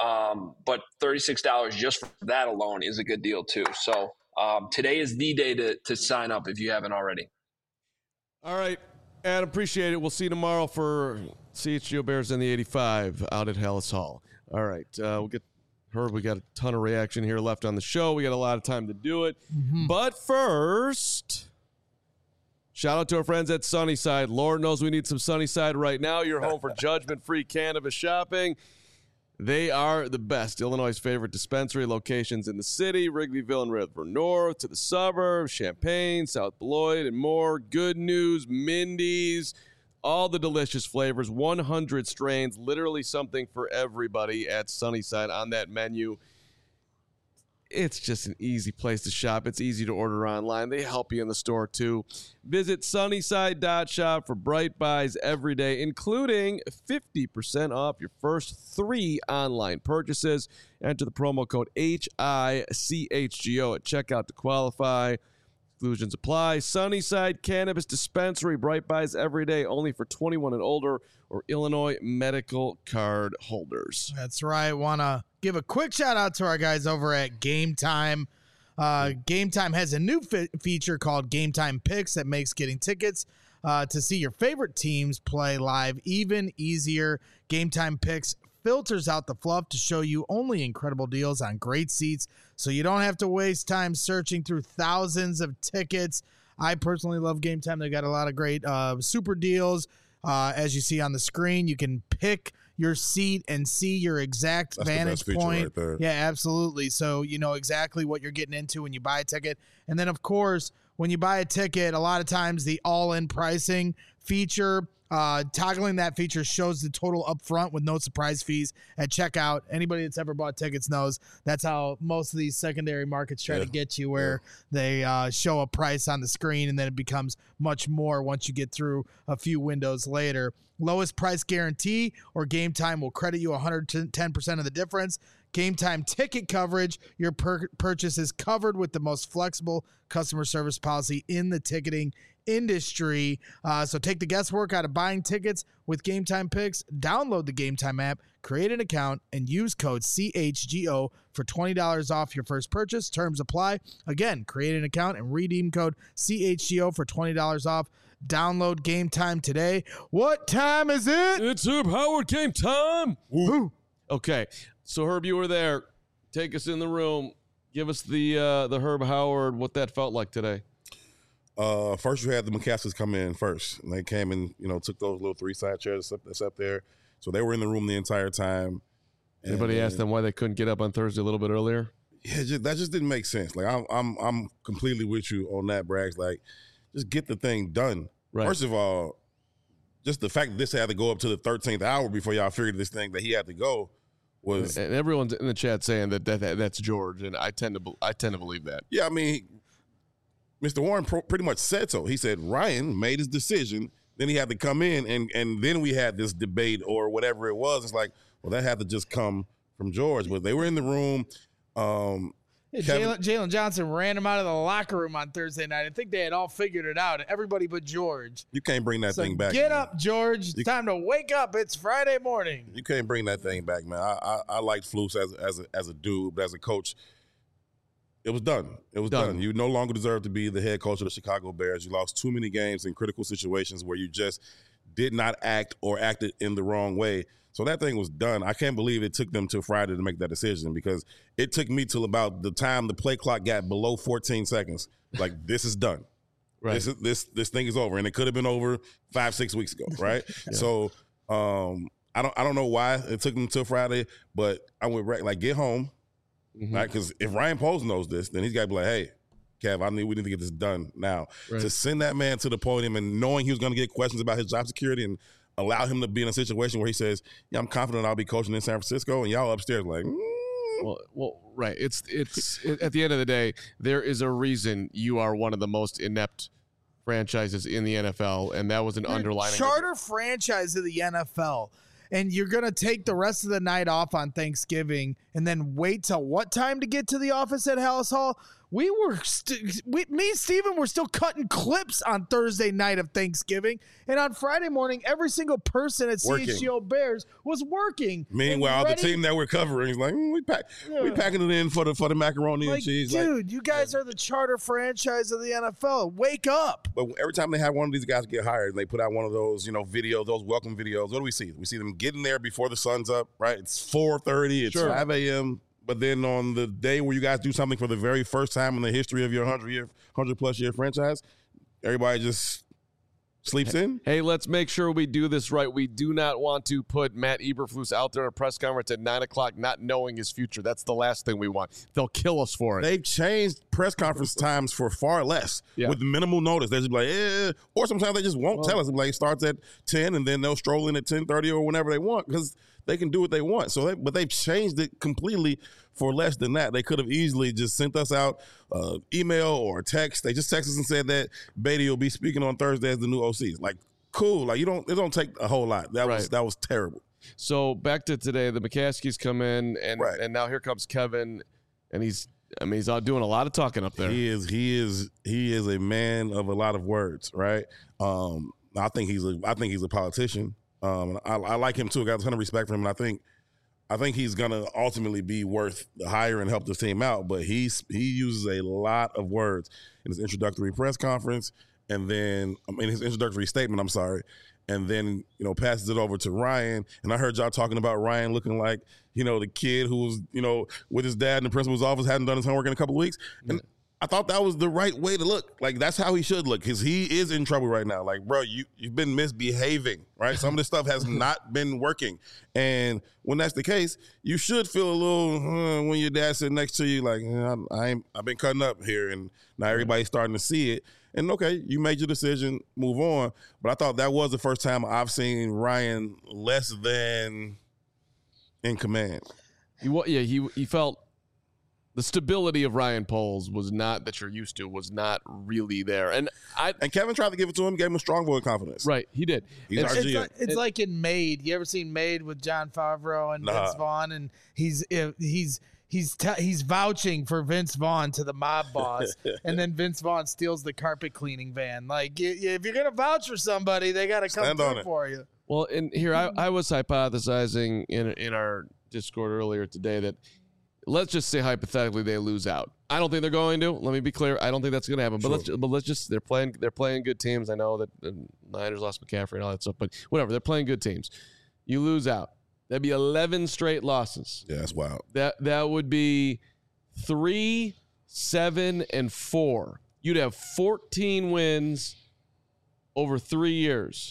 But $36 just for that alone is a good deal too. So today is the day to sign up if you haven't already. All right, Adam, appreciate it. We'll see you tomorrow for CHGO Bears in the 85 out at Hallis Hall. All right, we'll get Herb. We got a ton of reaction here left on the show. We got a lot of time to do it. Mm-hmm. But first, shout out to our friends at Sunnyside. Lord knows we need some Sunnyside right now. You're home for judgment-free cannabis shopping. They are the best. Illinois' favorite dispensary locations in the city, Wrigleyville and River North, to the suburbs, Champaign, South Beloit, and more. Good news, Mindy's, all the delicious flavors, 100 strains, literally something for everybody at Sunnyside on that menu. It's just an easy place to shop. It's easy to order online. They help you in the store, too. Visit sunnyside.shop for bright buys every day, including 50% off your first 3 online purchases. Enter the promo code HICHGO at checkout to qualify. Exclusions apply. Sunnyside Cannabis Dispensary. Bright Buys every day, only for 21 and older or Illinois medical card holders. That's right. Want to give a quick shout out to our guys over at Game Time. Game Time has a new feature called Game Time Picks that makes getting tickets to see your favorite teams play live even easier. Game Time Picks filters out the fluff to show you only incredible deals on great seats, so you don't have to waste time searching through thousands of tickets. I personally love Game Time. They got a lot of great super deals. As you see on the screen, you can pick your seat and see your exact vantage point. Right there. Yeah, absolutely. So you know exactly what you're getting into when you buy a ticket. And then, of course, when you buy a ticket, a lot of times the all-in pricing feature, toggling that feature shows the total up front with no surprise fees at checkout. Anybody that's ever bought tickets knows that's how most of these secondary markets try to get you, where they show a price on the screen and then it becomes much more once you get through a few windows later. Lowest price guarantee, or Game Time will credit you 110% of the difference. Game Time ticket coverage, your purchase is covered with the most flexible customer service policy in the ticketing industry. So take the guesswork out of buying tickets with Game Time Picks. Download the Game Time app, create an account, and use code CHGO for $20 off your first purchase. Terms apply. Again, create an account and redeem code CHGO for $20 off. Download Game Time today. What time is it? It's Herb Howard game time. Woo. Okay, so Herb, you were there. Take us in the room. Give us the Herb Howard, what that felt like today. First, you had the McCaskies come in first. And they came and, took those little 3-side chairs that's up there. So they were in the room the entire time. Anybody asked them why they couldn't get up on Thursday a little bit earlier? Yeah, that just didn't make sense. Like, I'm completely with you on that, Braggs. Like, just get the thing done. Right. First of all, just the fact that this had to go up to the 13th hour before y'all figured this thing that he had to go was. And everyone's in the chat saying that's George, and I tend to believe that. Yeah, I mean, Mr. Warren pretty much said so. He said Ryan made his decision, then he had to come in, and then we had this debate or whatever it was. It's like, well, that had to just come from George. But they were in the room. Jalen Johnson ran him out of the locker room on Thursday night. I think they had all figured it out, everybody but George. You can't bring that thing back. Get up, George. It's time to wake up. It's Friday morning. You can't bring that thing back, man. I liked Flus as a dude, but as a coach, it was done. It was done. You no longer deserve to be the head coach of the Chicago Bears. You lost too many games in critical situations where you just did not act or acted in the wrong way. So that thing was done. I can't believe it took them till Friday to make that decision, because it took me till about the time the play clock got below 14 seconds. Like, this is done. Right. This thing is over, and it could have been over 5-6 weeks ago, right? Yeah. So I don't know why it took them till Friday, but I went like, get home, right? Because if Ryan Poles knows this, then he's got to be like, hey, Kev, we need to get this done now. Right. To send that man to the podium and knowing he was going to get questions about his job security and allow him to be in a situation where he says, yeah, I'm confident I'll be coaching in San Francisco, and y'all upstairs like, Well, right. It's at the end of the day, there is a reason you are one of the most inept franchises in the NFL, and that was an underlining. Charter franchise of the NFL, and you're going to take the rest of the night off on Thanksgiving and then wait till what time to get to the office at Hallis Hall? Me and Steven were still cutting clips on Thursday night of Thanksgiving, and on Friday morning, every single person at CHGO Bears was working. Meanwhile, the team that we're covering is like, we packing it in for the macaroni and cheese. Dude, you guys are the charter franchise of the NFL. Wake up! But every time they have one of these guys get hired, they put out one of those, videos, those welcome videos. What do we see? We see them getting there before the sun's up. Right? It's 4:30. It's 5 a.m. But then on the day where you guys do something for the very first time in the history of your 100+ year franchise, everybody just sleeps in. Hey, let's make sure we do this right. We do not want to put Matt Eberflus out there at a press conference at 9 o'clock not knowing his future. That's the last thing we want. They'll kill us for it. They've changed press conference times for far less with minimal notice. They just be like, or sometimes they just won't tell us. Like, it starts at 10 and then they'll stroll in at 10:30 or whenever they want, because they can do what they want. But they've changed it completely for less than that. They could have easily just sent us out email or text. They just texted us and said that Beatty will be speaking on Thursday as the new OC. Like, cool. Like, it don't take a whole lot. That was terrible. So back to today, the McCaskies come in, and now here comes Kevin, and he's I mean, he's out doing a lot of talking up there. He is a man of a lot of words, right? I think he's a politician. I like him too. I got a ton of respect for him, and I think he's gonna ultimately be worth the hire and help this team out. But he uses a lot of words in his introductory press conference, and then his introductory statement. I'm sorry. And then, passes it over to Ryan. And I heard y'all talking about Ryan looking like, the kid who was, with his dad in the principal's office, hadn't done his homework in a couple of weeks. And I thought that was the right way to look. Like, that's how he should look, because he is in trouble right now. Like, bro, you've been misbehaving, right? Some of this stuff has not been working. And when that's the case, you should feel a little, when your dad's sitting next to you, like, I've been cutting up here, and now everybody's starting to see it. And okay, you made your decision, move on. But I thought that was the first time I've seen Ryan less than in command. He felt the stability of Ryan Poles was not that you're used to, was not really there. And Kevin tried to give it to him, gave him a strong vote of confidence. Right, he did. It's like in Made. You ever seen Made with Jon Favreau and Vince Vaughn? And he's vouching for Vince Vaughn to the mob boss, and then Vince Vaughn steals the carpet cleaning van. Like, if you're gonna vouch for somebody, they got to come through for you. Well, and here I was hypothesizing in our Discord earlier today that, let's just say hypothetically they lose out. I don't think they're going to. Let me be clear. I don't think that's going to happen. But let's just they're playing good teams. I know that the Niners lost McCaffrey and all that stuff, but whatever. They're playing good teams. You lose out. That'd be 11 straight losses. Yeah, that's wild. That would be 3, 7, and 4. You'd have 14 wins over 3 years.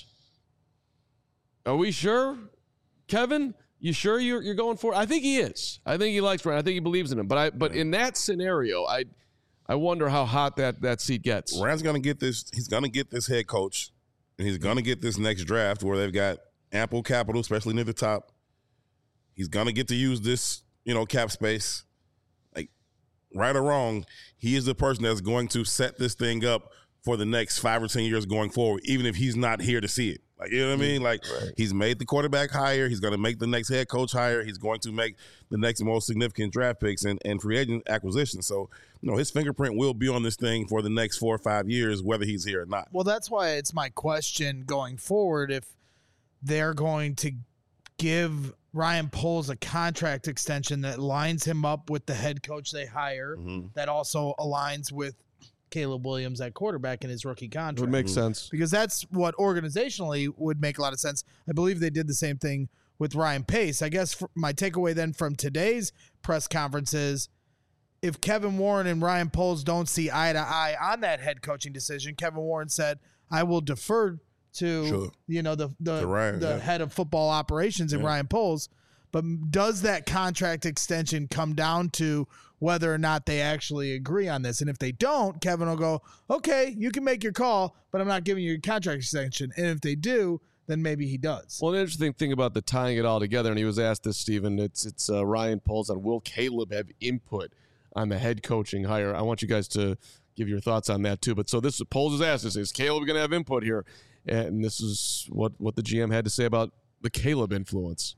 Are we sure, Kevin? You sure you're going for it? I think he is. I think he likes Ryan. I think he believes in him. But in that scenario, I wonder how hot that seat gets. Ryan's gonna get this. He's gonna get this head coach, and he's gonna get this next draft where they've got ample capital, especially near the top. He's gonna get to use this, cap space. Like, right or wrong, he is the person that's going to set this thing up for the next 5 or 10 years going forward, even if he's not here to see it. Like, you know what I mean? Like, He's made the quarterback hire. He's going to make the next head coach hire. He's going to make the next most significant draft picks and free agent acquisitions. So, his fingerprint will be on this thing for the next 4 or 5 years, whether he's here or not. Well, that's why it's my question going forward, if they're going to give Ryan Poles a contract extension that lines him up with the head coach they hire, that also aligns with Caleb Williams at quarterback in his rookie contract. Would make sense. Because that's what organizationally would make a lot of sense. I believe they did the same thing with Ryan Pace. I guess my takeaway then from today's press conference is, if Kevin Warren and Ryan Poles don't see eye to eye on that head coaching decision, Kevin Warren said, I will defer to the head of football operations and Ryan Poles. But does that contract extension come down to whether or not they actually agree on this? And if they don't, Kevin will go, okay, you can make your call, but I'm not giving you a contract extension. And if they do, then maybe he does. Well, an interesting thing about the tying it all together, and he was asked this, Stephen, it's Ryan Poles on, will Caleb have input on the head coaching hire? I want you guys to give your thoughts on that too. But so this Poles is asked, is Caleb going to have input here? And this is what the GM had to say about the Caleb influence.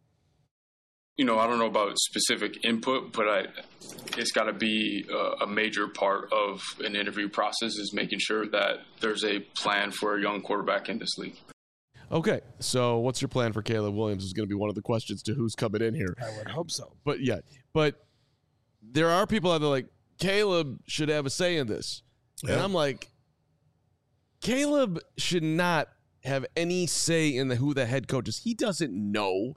I don't know about specific input, but it's got to be a major part of an interview process, is making sure that there's a plan for a young quarterback in this league. Okay, so what's your plan for Caleb Williams is going to be one of the questions to who's coming in here. I would hope so. But there are people out there like, Caleb should have a say in this. Yeah. And I'm like, Caleb should not have any say in who the head coach is. He doesn't know.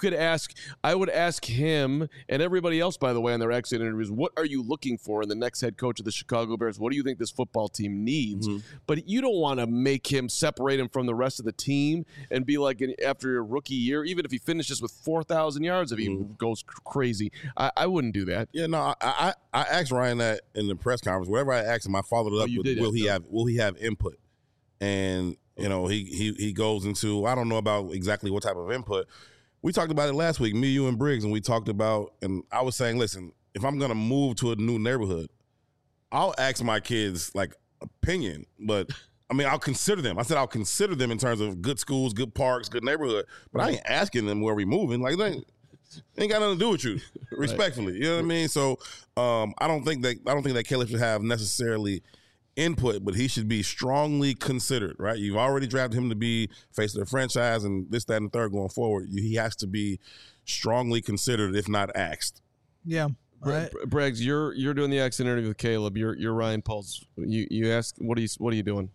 I would ask him and everybody else, by the way, on their exit interviews, what are you looking for in the next head coach of the Chicago Bears? What do you think this football team needs? But you don't want to make him, separate him from the rest of the team and be like, after your rookie year, even if he finishes with 4,000 yards, if he goes crazy, I wouldn't do that. Yeah, no, I asked Ryan that in the press conference. Whatever I asked him, I followed it up with, will he have input? And he goes into, I don't know about exactly what type of input. We talked about it last week, me, you, and Briggs, and we talked about, and I was saying, listen, if I'm going to move to a new neighborhood, I'll ask my kids, opinion, but, I'll consider them. I said I'll consider them in terms of good schools, good parks, good neighborhood, but I ain't asking them where we moving. Ain't got nothing to do with you, respectfully. You know what I mean? So I don't think that Caleb should have necessarily input, but he should be strongly considered, right? You've already drafted him to be face of the franchise and this, that, and the third going forward. He has to be strongly considered, if not asked. Yeah. Braggs, you're doing the exit interview with Caleb. You're Ryan Pauls. You ask, what are you doing?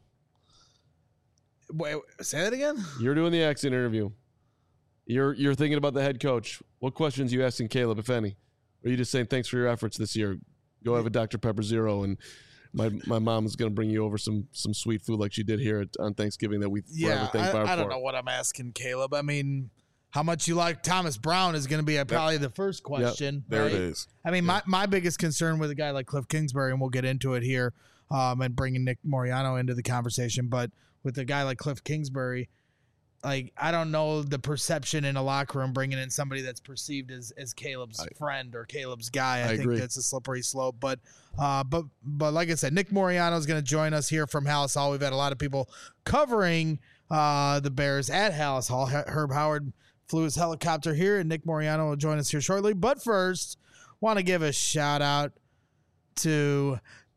Wait, say that again? You're doing the exit interview. You're thinking about the head coach. What questions are you asking Caleb, if any? Or are you just saying thanks for your efforts this year? Go have a Dr. Pepper Zero, and my mom is going to bring you over some sweet food like she did here on Thanksgiving that we forever thank Barb for. I don't know what I'm asking Caleb. I mean, how much you like Thomas Brown is going to be probably the first question. Yep, there it is. I mean, my biggest concern with a guy like Cliff Kingsbury, and we'll get into it here, and bringing Nick Moreano into the conversation, but with a guy like Cliff Kingsbury, like, I don't know the perception in a locker room bringing in somebody that's perceived as Caleb's friend or Caleb's guy. I think agree. That's a slippery slope. But like I said, Nick Moreano is going to join us here from Halas Hall. We've had a lot of people covering the Bears at Halas Hall. Herb Howard flew his helicopter here, and Nick Moreano will join us here shortly. But first, want to give a shout out to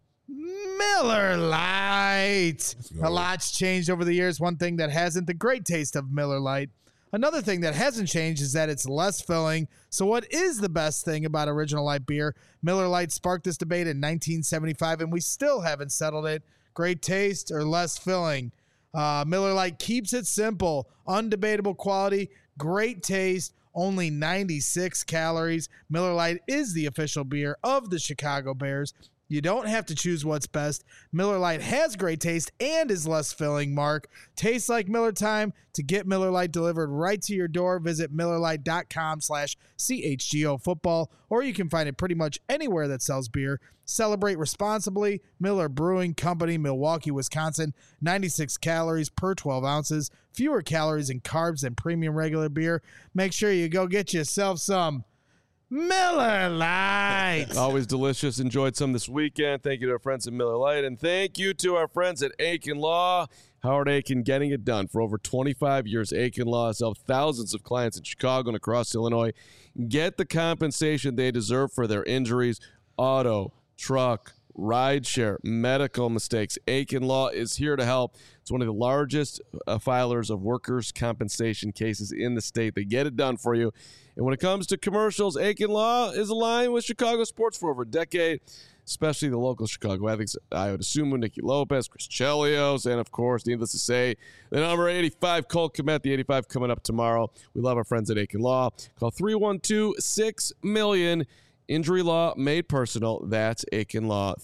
Miller Lite. A lot's changed over the years. One thing that hasn't, the great taste of Miller Lite. Another thing that hasn't changed is that it's less filling. So what is the best thing about Original Light beer? Miller Lite sparked this debate in 1975, and we still haven't settled it. Great taste or less filling? Miller Lite keeps it simple. Undebatable quality, great taste, only 96 calories. Miller Lite is the official beer of the Chicago Bears. You don't have to choose what's best. Miller Lite has great taste and is less filling, Mark. Tastes like Miller time. To get Miller Lite delivered right to your door, visit MillerLite.com/CHGO football, or you can find it pretty much anywhere that sells beer. Celebrate responsibly. Miller Brewing Company, Milwaukee, Wisconsin. 96 calories per 12 ounces. Fewer calories and carbs than premium regular beer. Make sure you go get yourself some Miller Lite. Always delicious. Enjoyed some this weekend. Thank you to our friends at Miller Lite, and thank you to our friends at Aiken Law. Howard Aiken, getting it done. For over 25 years, Aiken Law has helped thousands of clients in Chicago and across Illinois get the compensation they deserve for their injuries, auto, truck, rideshare, medical mistakes. Aiken Law is here to help. It's one of the largest filers of workers' compensation cases in the state. They get it done for you. And when it comes to commercials, Aiken Law is aligned with Chicago sports for over a decade, especially the local Chicago athletes, Ayo DeSumo, Nicky Lopez, Chris Chelios, and, of course, needless to say, the number 85, Cole Kmet, the 85 coming up tomorrow. We love our friends at Aiken Law. Call 312-6-MILLION. Injury law made personal. That's Aiken Law,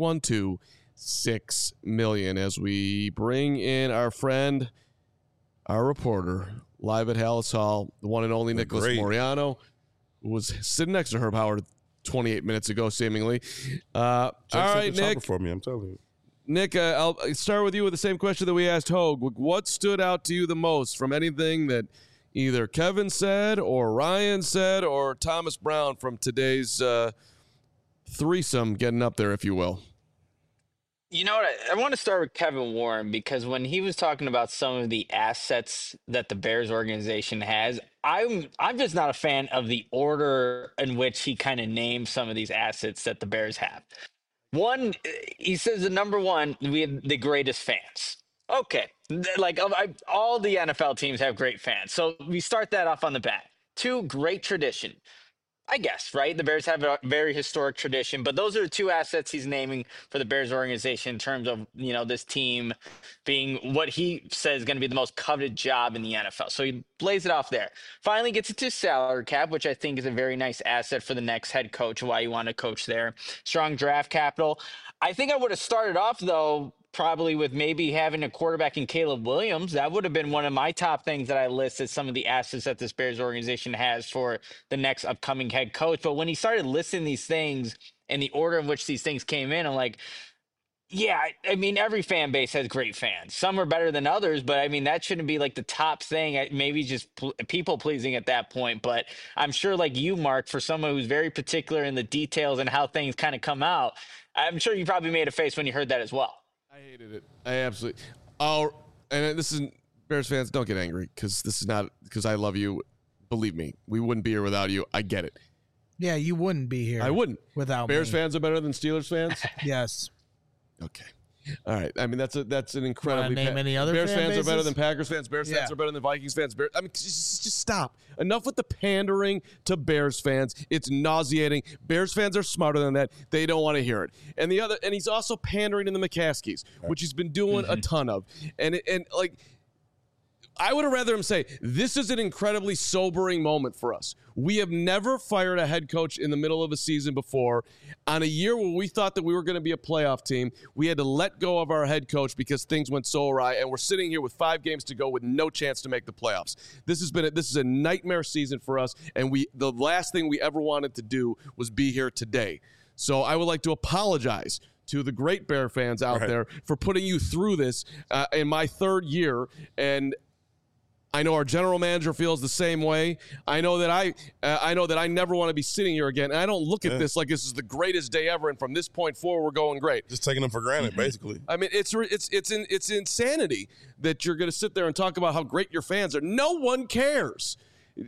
312-6-MILLION. As we bring in our friend, our reporter, live at Halas Hall, the one and only Nicholas Moreano, who was sitting next to Herb Howard 28 minutes ago, seemingly. All right, Nick. For me, I'm telling you. Nick, I'll start with you with the same question that we asked Hogue. What stood out to you the most from anything that either Kevin said or Ryan said or Thomas Brown from today's threesome getting up there, if you will? You know what? I want to start with Kevin Warren, because when he was talking about some of the assets that the Bears organization has, I'm just not a fan of the order in which he kind of named some of these assets that the Bears have. One, he says the number one, we have the greatest fans. Okay, like all the NFL teams have great fans, so we start that off on the bat. Two, great tradition. I guess, right? The Bears have a very historic tradition, but those are the two assets he's naming for the Bears organization in terms of, you know, this team being what he says is going to be the most coveted job in the NFL. So he lays it off there. Finally gets it to salary cap, which I think is a very nice asset for the next head coach, why you want to coach there. Strong draft capital. I think I would have started off, though, probably with maybe having a quarterback in Caleb Williams. That would have been one of my top things that I listed, some of the assets that this Bears organization has for the next upcoming head coach. But when he started listing these things and the order in which these things came in, I'm like, yeah, I mean, every fan base has great fans. Some are better than others, but I mean, that shouldn't be like the top thing. Maybe just people pleasing at that point. But I'm sure, like you, Mark, for someone who's very particular in the details and how things kind of come out, I'm sure you probably made a face when you heard that as well. I hated it. I absolutely. Oh, and this is Bears fans. Don't get angry because this is not because I love you. Believe me, we wouldn't be here without you. I get it. Yeah, you wouldn't be here. I wouldn't. Without Bears me. fans are better than Steelers fans? Yes. Okay. All right. I mean, that's an incredibly. Name any other Bears fan fans bases? are better than Packers fans. Bears fans are better than Vikings fans. I mean, just stop. Enough with the pandering to Bears fans. It's nauseating. Bears fans are smarter than that. They don't want to hear it. And he's also pandering in the McCaskies, which he's been doing a ton of. And I would have rather him say, this is an incredibly sobering moment for us. We have never fired a head coach in the middle of a season before. On a year where we thought that we were going to be a playoff team, we had to let go of our head coach because things went so awry, and we're sitting here with 5 games to go with no chance to make the playoffs. This is a nightmare season for us, and the last thing we ever wanted to do was be here today. So I would like to apologize to the great Bear fans out there for putting you through this in my 3rd year, and I know our general manager feels the same way. I know that I never want to be sitting here again. And I don't look at this like this is the greatest day ever. And from this point forward, we're going great. Just taking them for granted, basically. I mean, it's insanity that you're going to sit there and talk about how great your fans are. No one cares.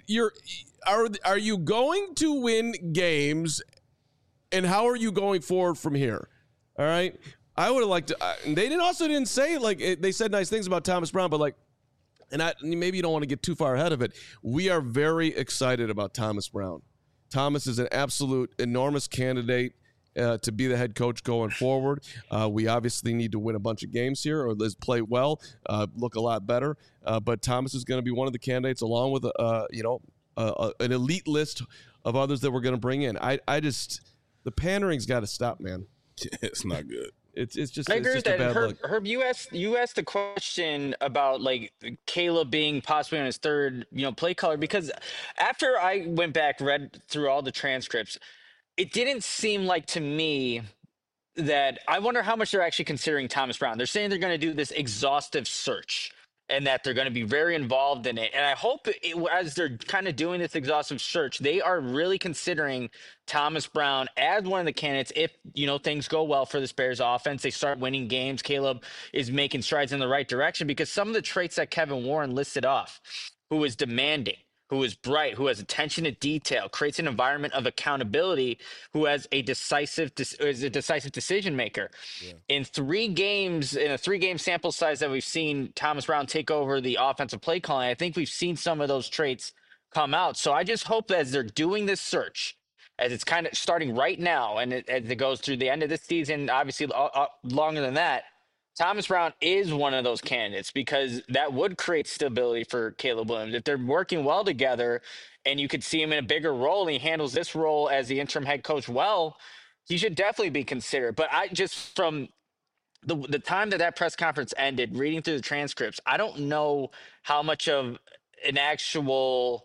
Are you going to win games, and how are you going forward from here? All right. I would have liked to. They didn't say they said nice things about Thomas Brown, but maybe you don't want to get too far ahead of it. We are very excited about Thomas Brown. Thomas is an absolute enormous candidate to be the head coach going forward. We obviously need to win a bunch of games here, or let's play well, look a lot better. But Thomas is going to be one of the candidates, along with an elite list of others that we're going to bring in. The pandering's got to stop, man. It's not good. It's just. I agree with that. Herb, you asked a question about Caleb being possibly on his 3rd play caller, because after I went back, read through all the transcripts, it didn't seem like to me that I wonder how much they're actually considering Thomas Brown. They're saying they're going to do this exhaustive search and that they're going to be very involved in it. And I hope as they're kind of doing this exhaustive search, they are really considering Thomas Brown as one of the candidates. If, things go well for this Bears offense, they start winning games, Caleb is making strides in the right direction, because some of the traits that Kevin Warren listed off, who is demanding, who is bright, who has attention to detail, creates an environment of accountability, who has is a decisive decision maker. Yeah. In a 3-game sample size that we've seen Thomas Brown take over the offensive play calling, I think we've seen some of those traits come out. So I just hope that as they're doing this search, as it's kind of starting right now, and as it goes through the end of this season, obviously longer than that, Thomas Brown is one of those candidates, because that would create stability for Caleb Williams. If they're working well together and you could see him in a bigger role and he handles this role as the interim head coach well, he should definitely be considered. But I just, from the time that press conference ended, reading through the transcripts, I don't know how much of an actual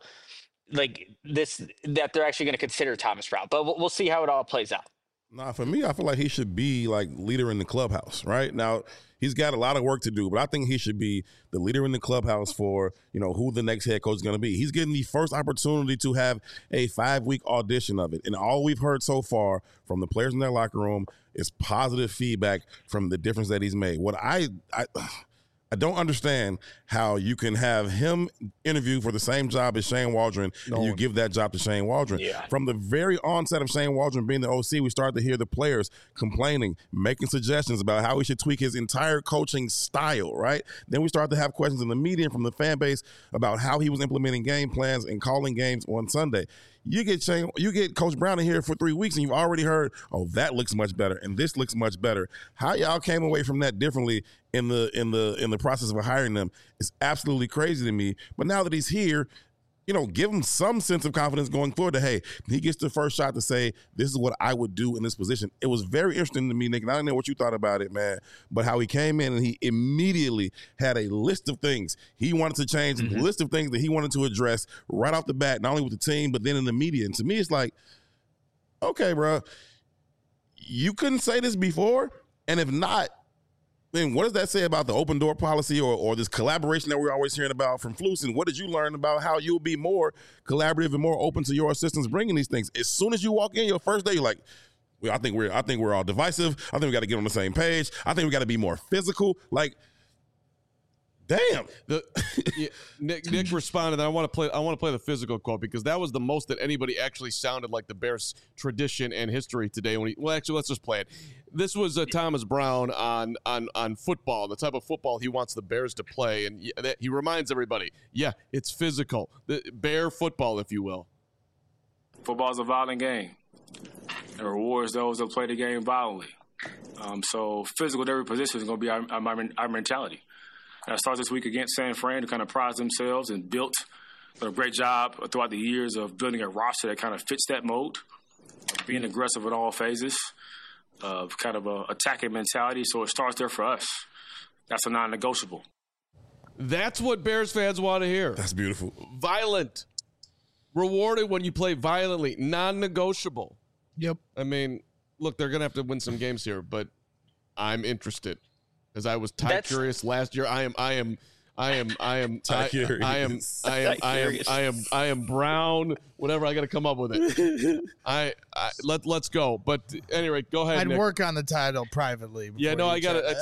that they're actually going to consider Thomas Brown. But we'll see how it all plays out. Nah, for me, I feel like he should be leader in the clubhouse, right? Now, he's got a lot of work to do, but I think he should be the leader in the clubhouse for, who the next head coach is going to be. He's getting the first opportunity to have a 5-week audition of it. And all we've heard so far from the players in their locker room is positive feedback from the difference that he's made. What I don't understand how you can have him interview for the same job as Shane Waldron and you give that job to Shane Waldron. Yeah. From the very onset of Shane Waldron being the OC, we started to hear the players complaining, making suggestions about how he should tweak his entire coaching style, right? Then we started to have questions in the media and from the fan base about how he was implementing game plans and calling games on Sunday. You get Coach Brown in here for 3 weeks and you've already heard, oh, that looks much better and this looks much better. How y'all came away from that differently in the process of hiring them is absolutely crazy to me. But now that he's here, give him some sense of confidence going forward that, hey, he gets the first shot to say, this is what I would do in this position. It was very interesting to me, Nick, and I don't know what you thought about it, man, but how he came in and he immediately had a list of things he wanted to change, a list of things that he wanted to address right off the bat, not only with the team, but then in the media. And to me, it's like, okay, bro, you couldn't say this before? And if not, then what does that say about the open door policy or this collaboration that we're always hearing about from Flus? And what did you learn about how you'll be more collaborative and more open to your assistants bringing these things? As soon as you walk in your first day, you're like, I think we're all divisive. I think we got to get on the same page. I think we got to be more physical. Damn. Nick responded. I want to play the physical quote because that was the most that anybody actually sounded like the Bears' tradition and history today. Actually, let's just play it. This was Thomas Brown on football, the type of football he wants the Bears to play, and he reminds everybody, it's physical, the Bear football, if you will. Football is a violent game. It rewards those that play the game violently. So physical at every position is going to be our mentality. And it starts this week against San Fran, who kind of prized themselves and built a great job throughout the years of building a roster that kind of fits that mold, being aggressive in all phases, of kind of a attacking mentality. So it starts there for us. That's a non-negotiable. That's what Bears fans want to hear. That's beautiful. Violent. Rewarded when you play violently. Non-negotiable. Yep. I mean, look, they're going to have to win some games here, but I'm interested. Because I was curious last year. I am Brown. Whatever, I got to come up with it. Let's go. But anyway, go ahead. I'd Nick. work on the title privately. Yeah, no, I got it.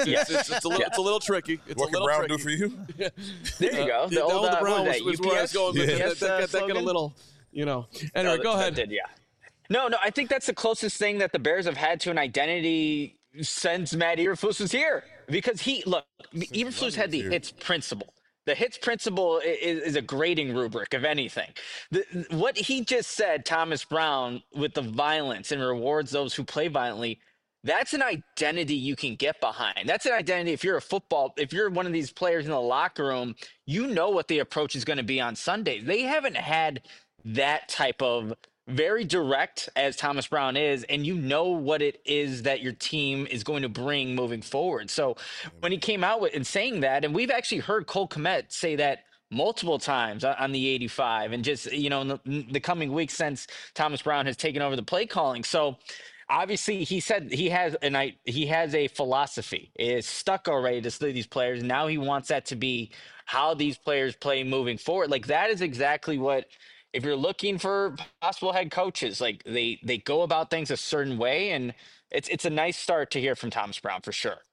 It's a little tricky. What can Brown do for you? There you go. The old Brown was where I was going. UPS That got a little, Anyway, go ahead. Did, yeah. No, I think that's the closest thing that the Bears have had to an identity since Matt Eberflus was here. Because Eberflus had the hits principle. The hits principle is a grading rubric, if anything. What he just said, Thomas Brown, with the violence and rewards those who play violently, that's an identity you can get behind. That's an identity if you're one of these players in the locker room, you know what the approach is going to be on Sunday. They haven't had that type of very direct as Thomas Brown is, and you know what it is that your team is going to bring moving forward. So when he came out and saying that, and we've actually heard Cole Kmet say that multiple times on the 85 and just, in the coming weeks since Thomas Brown has taken over the play calling. So obviously he said he has a philosophy. It is stuck already to these players. Now he wants that to be how these players play moving forward. Like that is exactly what, if you're looking for possible head coaches, like they go about things a certain way, and it's a nice start to hear from Thomas Brown for sure.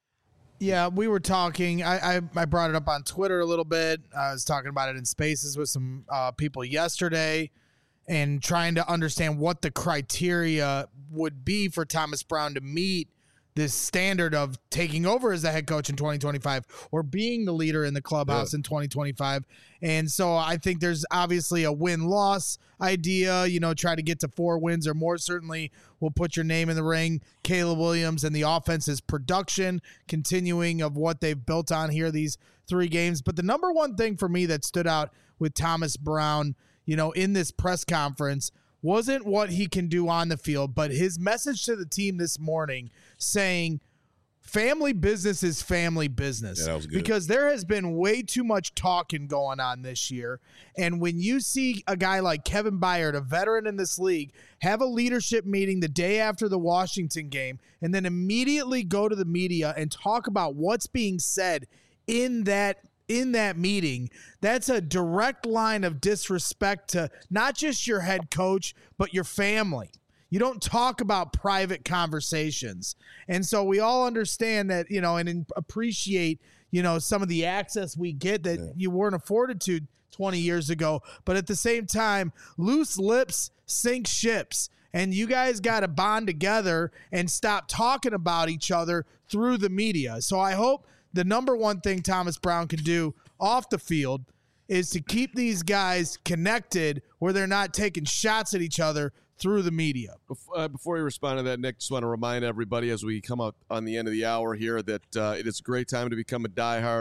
Yeah, we were talking. I brought it up on Twitter a little bit. I was talking about it in Spaces with some people yesterday and trying to understand what the criteria would be for Thomas Brown to meet this standard of taking over as a head coach in 2025 or being the leader in the clubhouse in 2025. And so I think there's obviously a win-loss idea, try to get to 4 wins or more. Certainly will put your name in the ring. Caleb Williams and the offense's production continuing of what they've built on here these 3 games. But the number one thing for me that stood out with Thomas Brown, in this press conference wasn't what he can do on the field, but his message to the team this morning saying family business is family business. Yeah, that was good. Because there has been way too much talking going on this year. And when you see a guy like Kevin Byard, a veteran in this league, have a leadership meeting the day after the Washington game and then immediately go to the media and talk about what's being said in that meeting, that's a direct line of disrespect to not just your head coach, but your family. You don't talk about private conversations. And so we all understand that, and appreciate, some of the access we get that you weren't afforded to 20 years ago. But at the same time, loose lips sink ships. And you guys got to bond together and stop talking about each other through the media. So I hope the number one thing Thomas Brown can do off the field is to keep these guys connected where they're not taking shots at each other through the media. Before you respond to that, Nick, just want to remind everybody as we come up on the end of the hour here that it is a great time to become a diehard.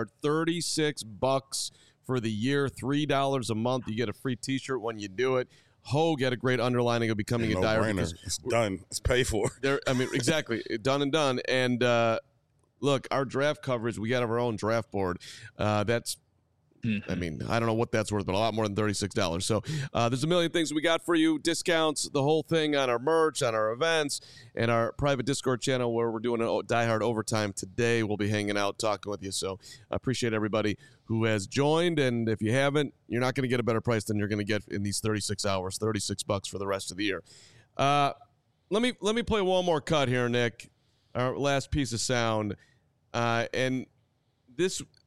$36 for the year, $3 a month. You get a free T-shirt when you do it. Hogue had a great underlining of becoming a diehard. It's done. It's paid for. Exactly. Done and done. And look, our draft coverage, we got our own draft board. That's, I don't know what that's worth, but a lot more than $36. So there's a million things we got for you. Discounts, the whole thing on our merch, on our events, and our private Discord channel where we're doing a Die Hard Overtime today. We'll be hanging out, talking with you. So I appreciate everybody who has joined. And if you haven't, you're not going to get a better price than you're going to get in these 36 hours, $36 for the rest of the year. Let me play one more cut here, Nick. Our last piece of sound. And this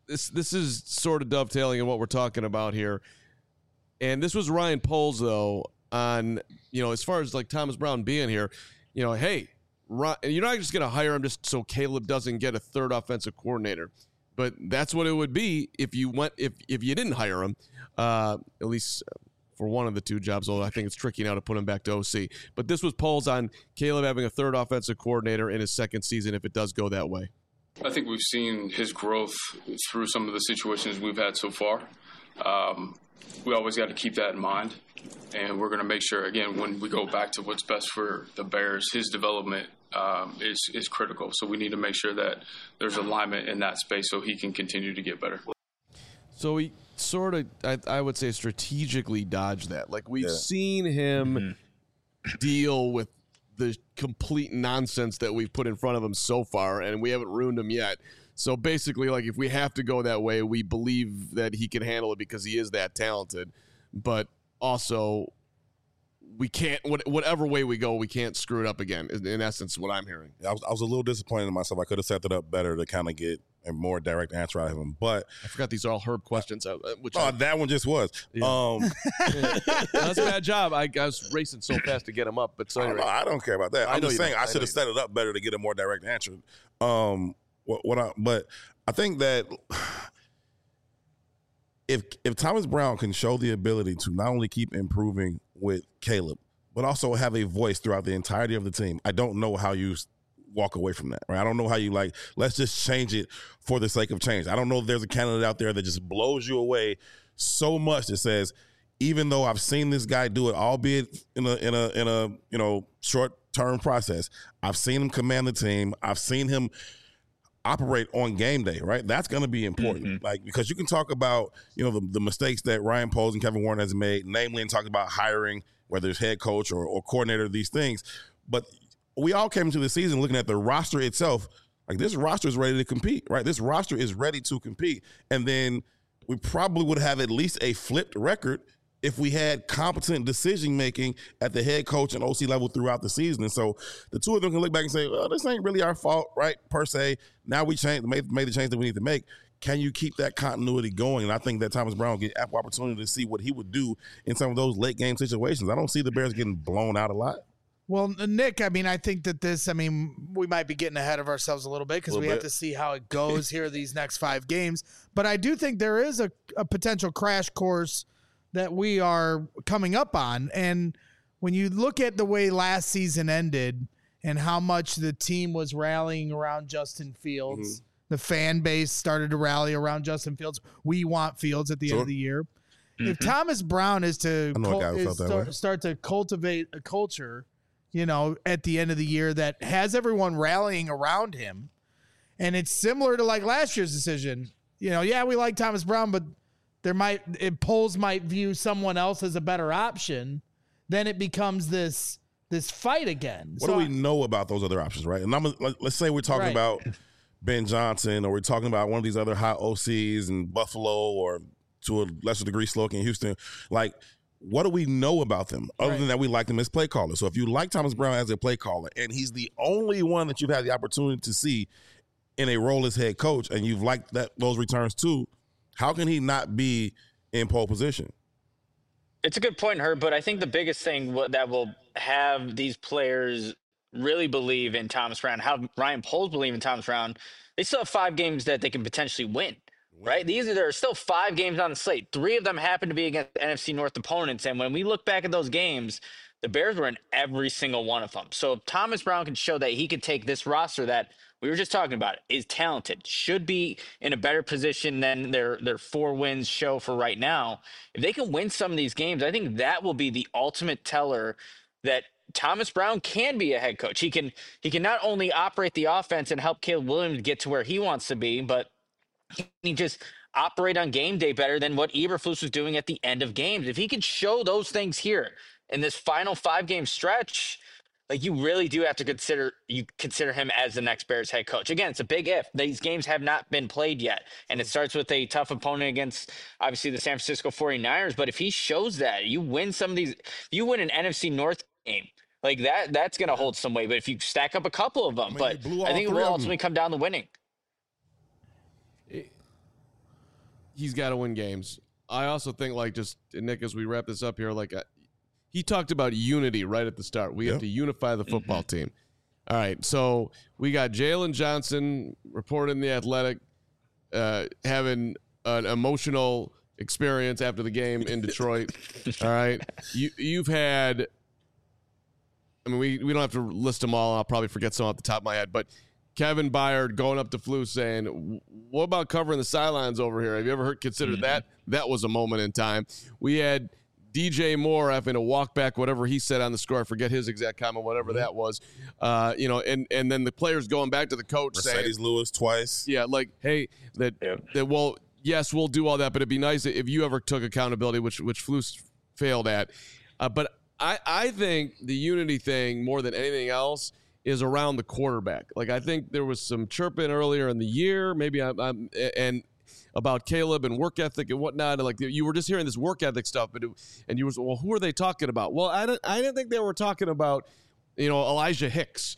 this is sort of dovetailing in what we're talking about here. And this was Ryan Poles, though, on, as far as like Thomas Brown being here, hey, you're not just going to hire him just so Caleb doesn't get a third offensive coordinator. But that's what it would be if you didn't hire him, at least for one of the two jobs, although I think it's tricky now to put him back to OC. But this was Poles on Caleb having a third offensive coordinator in his second season if it does go that way. I think we've seen his growth through some of the situations we've had so far. We always got to keep that in mind. And we're going to make sure, again, when we go back to what's best for the Bears, his development is critical. So we need to make sure that there's alignment in that space so he can continue to get better. So he sort of, I would say, strategically dodged that. Like, we've seen him deal with the complete nonsense that we've put in front of him so far, and we haven't ruined him yet. So basically, like, if we have to go that way, we believe that he can handle it because he is that talented. But also, we can't, whatever way we go, we can't screw it up again, in essence, what I'm hearing. I was a little disappointed in myself. I could have set that up better to kind of get a more direct answer out of him. But I forgot these are all Herb questions. That one just was. Yeah. That's a bad job. I was racing so fast to get him up. But so anyway. I don't care about that. I'm just saying I should have set it up better to get a more direct answer. But I think that if Thomas Brown can show the ability to not only keep improving with Caleb, but also have a voice throughout the entirety of the team, I don't know how you walk away from that, right? I don't know how you let's just change it for the sake of change. I don't know if there's a candidate out there that just blows you away so much that says, even though I've seen this guy do it, albeit in a short-term process, I've seen him command the team. I've seen him operate on game day, right? That's going to be important. Because you can talk about, the mistakes that Ryan Poles and Kevin Warren has made, namely in talking about hiring, whether it's head coach or coordinator, these things. But we all came into the season looking at the roster itself. Like, this roster is ready to compete, right? This roster is ready to compete. And then we probably would have at least a flipped record if we had competent decision-making at the head coach and OC level throughout the season. And so the two of them can look back and say, well, this ain't really our fault, right, per se. Now we made the change that we need to make. Can you keep that continuity going? And I think that Thomas Brown will get ample opportunity to see what he would do in some of those late-game situations. I don't see the Bears getting blown out a lot. Well, Nick, I think that we might be getting ahead of ourselves a little bit because we have to see how it goes here these next 5 games. But I do think there is a potential crash course that we are coming up on. And when you look at the way last season ended and how much the team was rallying around Justin Fields, the fan base started to rally around Justin Fields. We want Fields at the end of the year. If Thomas Brown is to start to cultivate a culture, at the end of the year that has everyone rallying around him, and it's similar to like last year's decision, we like Thomas Brown, but polls might view someone else as a better option, then it becomes this fight again. What do we know about those other options, right? And let's say we're talking about Ben Johnson, or we're talking about one of these other hot OCs in Buffalo, or to a lesser degree Sloak in Houston. Like, what do we know about them other than that we like them as play callers? So if you like Thomas Brown as a play caller, and he's the only one that you've had the opportunity to see in a role as head coach, and you've liked those returns too, how can he not be in pole position? It's a good point, Herb, but I think the biggest thing that will have these players really believe in Thomas Brown, how Ryan Poles believe in Thomas Brown, they still have 5 games that they can potentially win, right? There are still 5 games on the slate. 3 of them happen to be against NFC North opponents, and when we look back at those games, the Bears were in every single one of them. So if Thomas Brown can show that he could take this roster that we were just talking about, is talented, should be in a better position than their 4 wins show for right now. If they can win some of these games, I think that will be the ultimate teller that Thomas Brown can be a head coach. He can not only operate the offense and help Caleb Williams get to where he wants to be, but he just operate on game day better than what Eberflus was doing at the end of games. If he could show those things here in this final 5-game stretch, like, you really do have to consider him as the next Bears head coach. Again, it's a big if. These games have not been played yet, and it starts with a tough opponent against, obviously, the San Francisco 49ers. But if he shows that, you win some of these, if you win an NFC North game, like that's going to hold some weight. But if you stack up a couple of them, I think it will ultimately come down to winning. he's got to win games. I also think, Nick, as we wrap this up here, he talked about unity right at the start. We have to unify the football team. All right, so we got Jalen Johnson reported in The Athletic having an emotional experience after the game in Detroit. All right, you've had. I mean, we don't have to list them all. I'll probably forget some off the top of my head, but Kevin Byard going up to Flus saying, "What about covering the sidelines over here? Have you ever considered that?" That was a moment in time. We had DJ Moore having to walk back whatever he said on the score. I forget his exact comment, whatever that was. And then the players going back to the coach Mercedes saying, Lewis twice. Yeah, hey, well, yes, we'll do all that, but it'd be nice if you ever took accountability, which Flus failed at. But I think the unity thing more than anything else is around the quarterback. I think there was some chirping earlier in the year, maybe and about Caleb and work ethic and whatnot. And you were just hearing this work ethic stuff, and you were, well, who are they talking about? Well, I didn't think they were talking about, Elijah Hicks.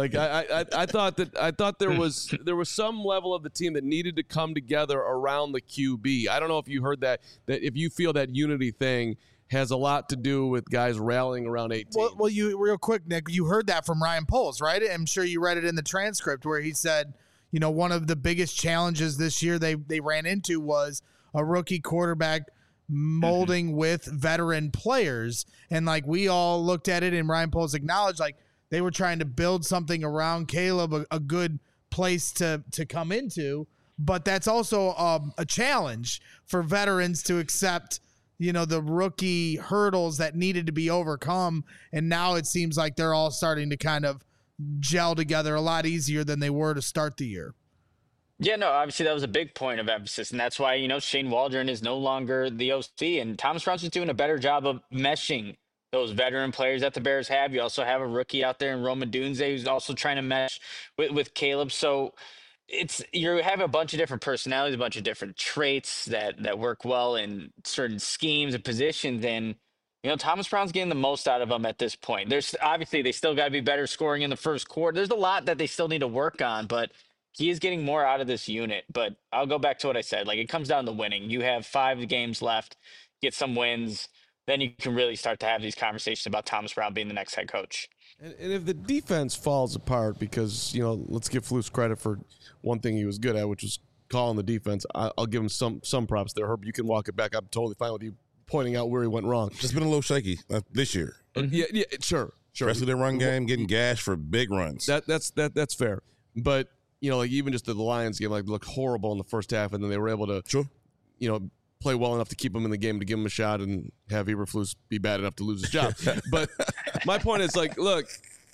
I thought there was some level of the team that needed to come together around the QB. I don't know if you heard that if you feel that unity thing has a lot to do with guys rallying around 18. Well, you real quick, Nick, you heard that from Ryan Poles, right? I'm sure you read it in the transcript where he said, one of the biggest challenges this year they ran into was a rookie quarterback molding with veteran players. And we all looked at it and Ryan Poles acknowledged they were trying to build something around Caleb, a good place to come into. But that's also a challenge for veterans to accept the rookie hurdles that needed to be overcome. And now it seems like they're all starting to kind of gel together a lot easier than they were to start the year. Yeah, no, obviously that was a big point of emphasis. And that's why, Shane Waldron is no longer the OC. And Thomas Brown's just doing a better job of meshing those veteran players that the Bears have. You also have a rookie out there in Roma Dunze who's also trying to mesh with Caleb. So you have a bunch of different personalities, a bunch of different traits that work well in certain schemes and positions. And, Thomas Brown's getting the most out of them at this point. There's obviously they still got to be better scoring in the first quarter. There's a lot that they still need to work on, but he is getting more out of this unit. But I'll go back to what I said. It comes down to winning. You have 5 games left, get some wins. Then you can really start to have these conversations about Thomas Brown being the next head coach. And if the defense falls apart, because, let's give Flus credit for one thing he was good at, which was calling the defense. I'll give him some props there. Herb, you can walk it back. I'm totally fine with you pointing out where he went wrong. Just been a little shaky this year. Yeah, sure. Especially their run game, getting gashed for big runs. That's fair. But, even just the Lions game, looked horrible in the first half, and then they were able to, play well enough to keep him in the game, to give him a shot, and have Eberflus be bad enough to lose his job. But my point is, look,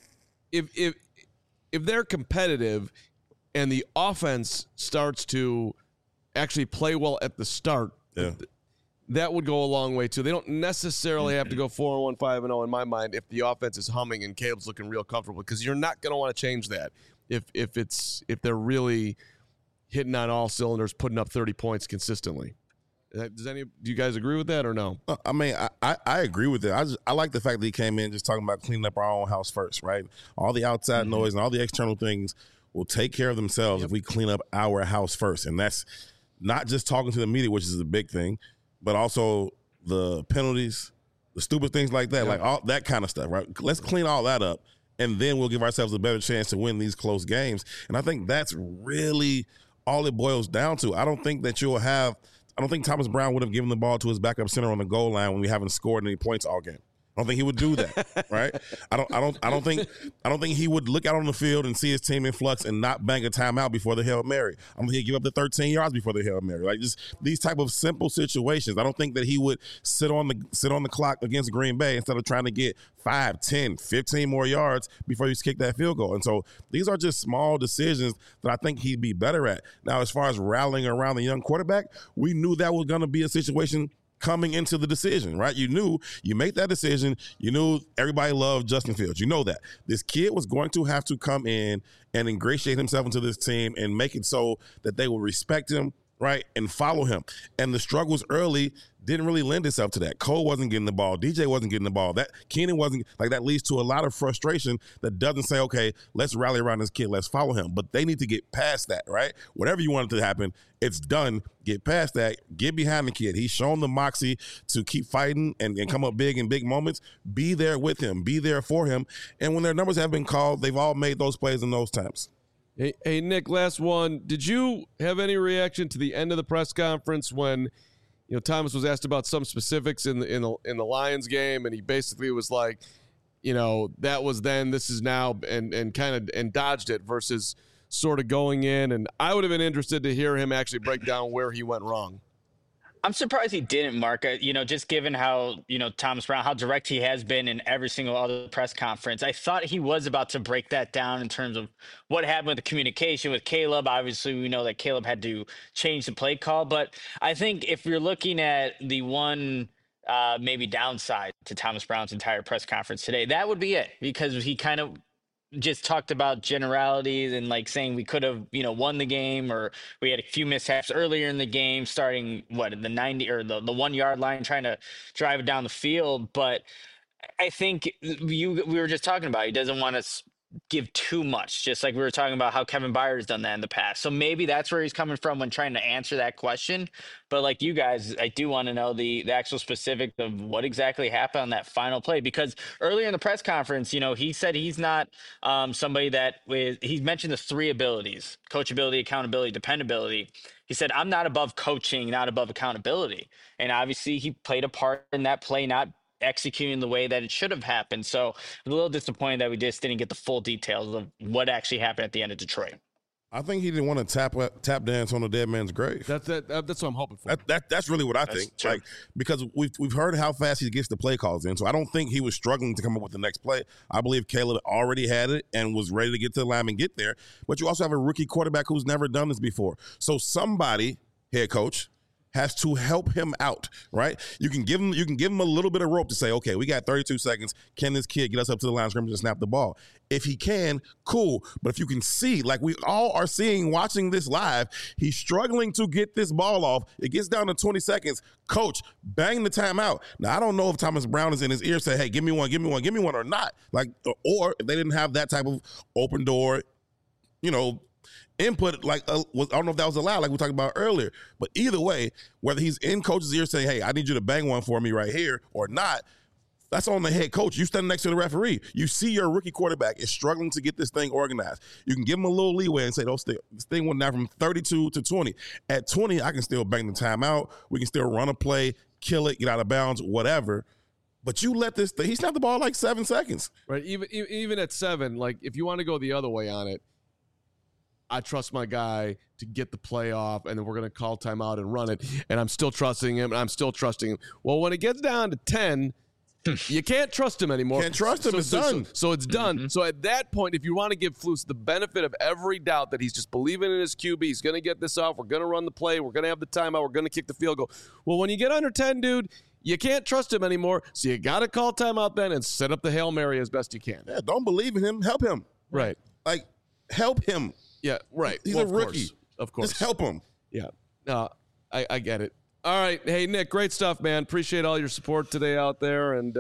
if they're competitive and the offense starts to actually play well at the start, that would go a long way too. They don't necessarily have to go 4-1, 5-0 in my mind if the offense is humming and Caleb's looking real comfortable, because you're not going to want to change that if they're really hitting on all cylinders, putting up 30 points consistently. Do you guys agree with that or no? I mean, I agree with it. I like the fact that he came in just talking about cleaning up our own house first, right? All the outside noise and all the external things will take care of themselves if we clean up our house first. And that's not just talking to the media, which is a big thing, but also the penalties, the stupid things like that, like all that kind of stuff, right? Let's clean all that up, and then we'll give ourselves a better chance to win these close games. And I think that's really all it boils down to. I don't think Thomas Brown would have given the ball to his backup center on the goal line when we haven't scored any points all game. I don't think he would do that, right? I don't think he would look out on the field and see his team in flux and not bang a timeout before the Hail Mary. I don't think he'd give up the 13 yards before the Hail Mary. Just these type of simple situations. I don't think that he would sit on the clock against Green Bay instead of trying to get 5, 10, 15 more yards before he kick that field goal. And so these are just small decisions that I think he'd be better at. Now, as far as rallying around the young quarterback, we knew that was going to be a situation coming into the decision, right? You knew you make that decision. You knew everybody loved Justin Fields. You know that. This kid was going to have to come in and ingratiate himself into this team and make it so that they will respect him right, and follow him. And the struggles early didn't really lend itself to that. Cole wasn't getting the ball. DJ wasn't getting the ball. That Keenan wasn't, like, that leads to a lot of frustration that doesn't say, okay, let's rally around this kid. Let's follow him. But they need to get past that, right? Whatever you want it to happen, it's done. Get past that. Get behind the kid. He's shown the moxie to keep fighting and come up big in big moments. Be there with him. Be there for him. And when their numbers have been called, they've all made those plays in those times. Hey, Nick, last one. Did you have any reaction to the end of the press conference when Thomas was asked about some specifics in the Lions game, and he basically was like, that was then, this is now, and kind of dodged it versus sort of going in. And I would have been interested to hear him actually break down where he went wrong. I'm surprised he didn't, Mark. Just given how, Thomas Brown, how direct he has been in every single other press conference. I thought he was about to break that down in terms of what happened with the communication with Caleb. Obviously, we know that Caleb had to change the play call. But I think if you're looking at the one maybe downside to Thomas Brown's entire press conference today, that would be it, because he kind of just talked about generalities and like saying we could have, won the game, or we had a few mishaps earlier in the game, starting at the 90 or the 1 yard line, trying to drive it down the field. But I think we were just talking about, he doesn't want to give too much, just like we were talking about how Kevin Byard's done that in the past. So maybe that's where he's coming from when trying to answer that question. But like you guys, I do want to know the actual specifics of what exactly happened on that final play, because earlier in the press conference, he said he's not somebody that he mentioned the three abilities: coachability, accountability, dependability. He said, I'm not above coaching, not above accountability. And obviously he played a part in that play, not executing the way that it should have happened. So I'm a little disappointed that we just didn't get the full details of what actually happened at the end of Detroit. I think he didn't want to tap dance on the dead man's grave. That's what I'm hoping for. That's really what I think. True. Like, because we've heard how fast he gets the play calls in. So I don't think he was struggling to come up with the next play. I believe Caleb already had it and was ready to get to the line and get there. But you also have a rookie quarterback who's never done this before. So somebody, head coach, has to help him out, right? You can give him a little bit of rope to say, okay, we got 32 seconds. Can this kid get us up to the line of scrimmage and snap the ball? If he can, cool. But if you can see, like we all are seeing watching this live, he's struggling to get this ball off. It gets down to 20 seconds. Coach, bang the timeout. Now, I don't know if Thomas Brown is in his ear saying, hey, give me one or not. Like, or if they didn't have that type of open door, input, like I don't know if that was allowed, like we talked about earlier. But either way, whether he's in coach's ear saying, hey, I need you to bang one for me right here or not, that's on the head coach. You stand next to the referee. You see your rookie quarterback is struggling to get this thing organized. You can give him a little leeway and say, this thing went down from 32 to 20. At 20, I can still bang the timeout. We can still run a play, kill it, get out of bounds, whatever. But you let this thing, he snapped the ball like 7 seconds. Right, even at 7, like if you want to go the other way on it, I trust my guy to get the play off, and then we're going to call timeout and run it, and I'm still trusting him, and I'm still trusting him. Well, when it gets down to 10, you can't trust him anymore. Can't trust him. It's done. So it's done. Mm-hmm. So at that point, if you want to give Flus the benefit of every doubt that he's just believing in his QB, he's going to get this off, we're going to run the play, we're going to have the timeout, we're going to kick the field goal. Well, when you get under 10, dude, you can't trust him anymore, so you got to call timeout then and set up the Hail Mary as best you can. Yeah, don't believe in him. Help him. Right. Like, help him. Yeah, right. He's a rookie. Of course. Just help him. Yeah. No, I get it. All right. Hey, Nick, great stuff, man. Appreciate all your support today out there. And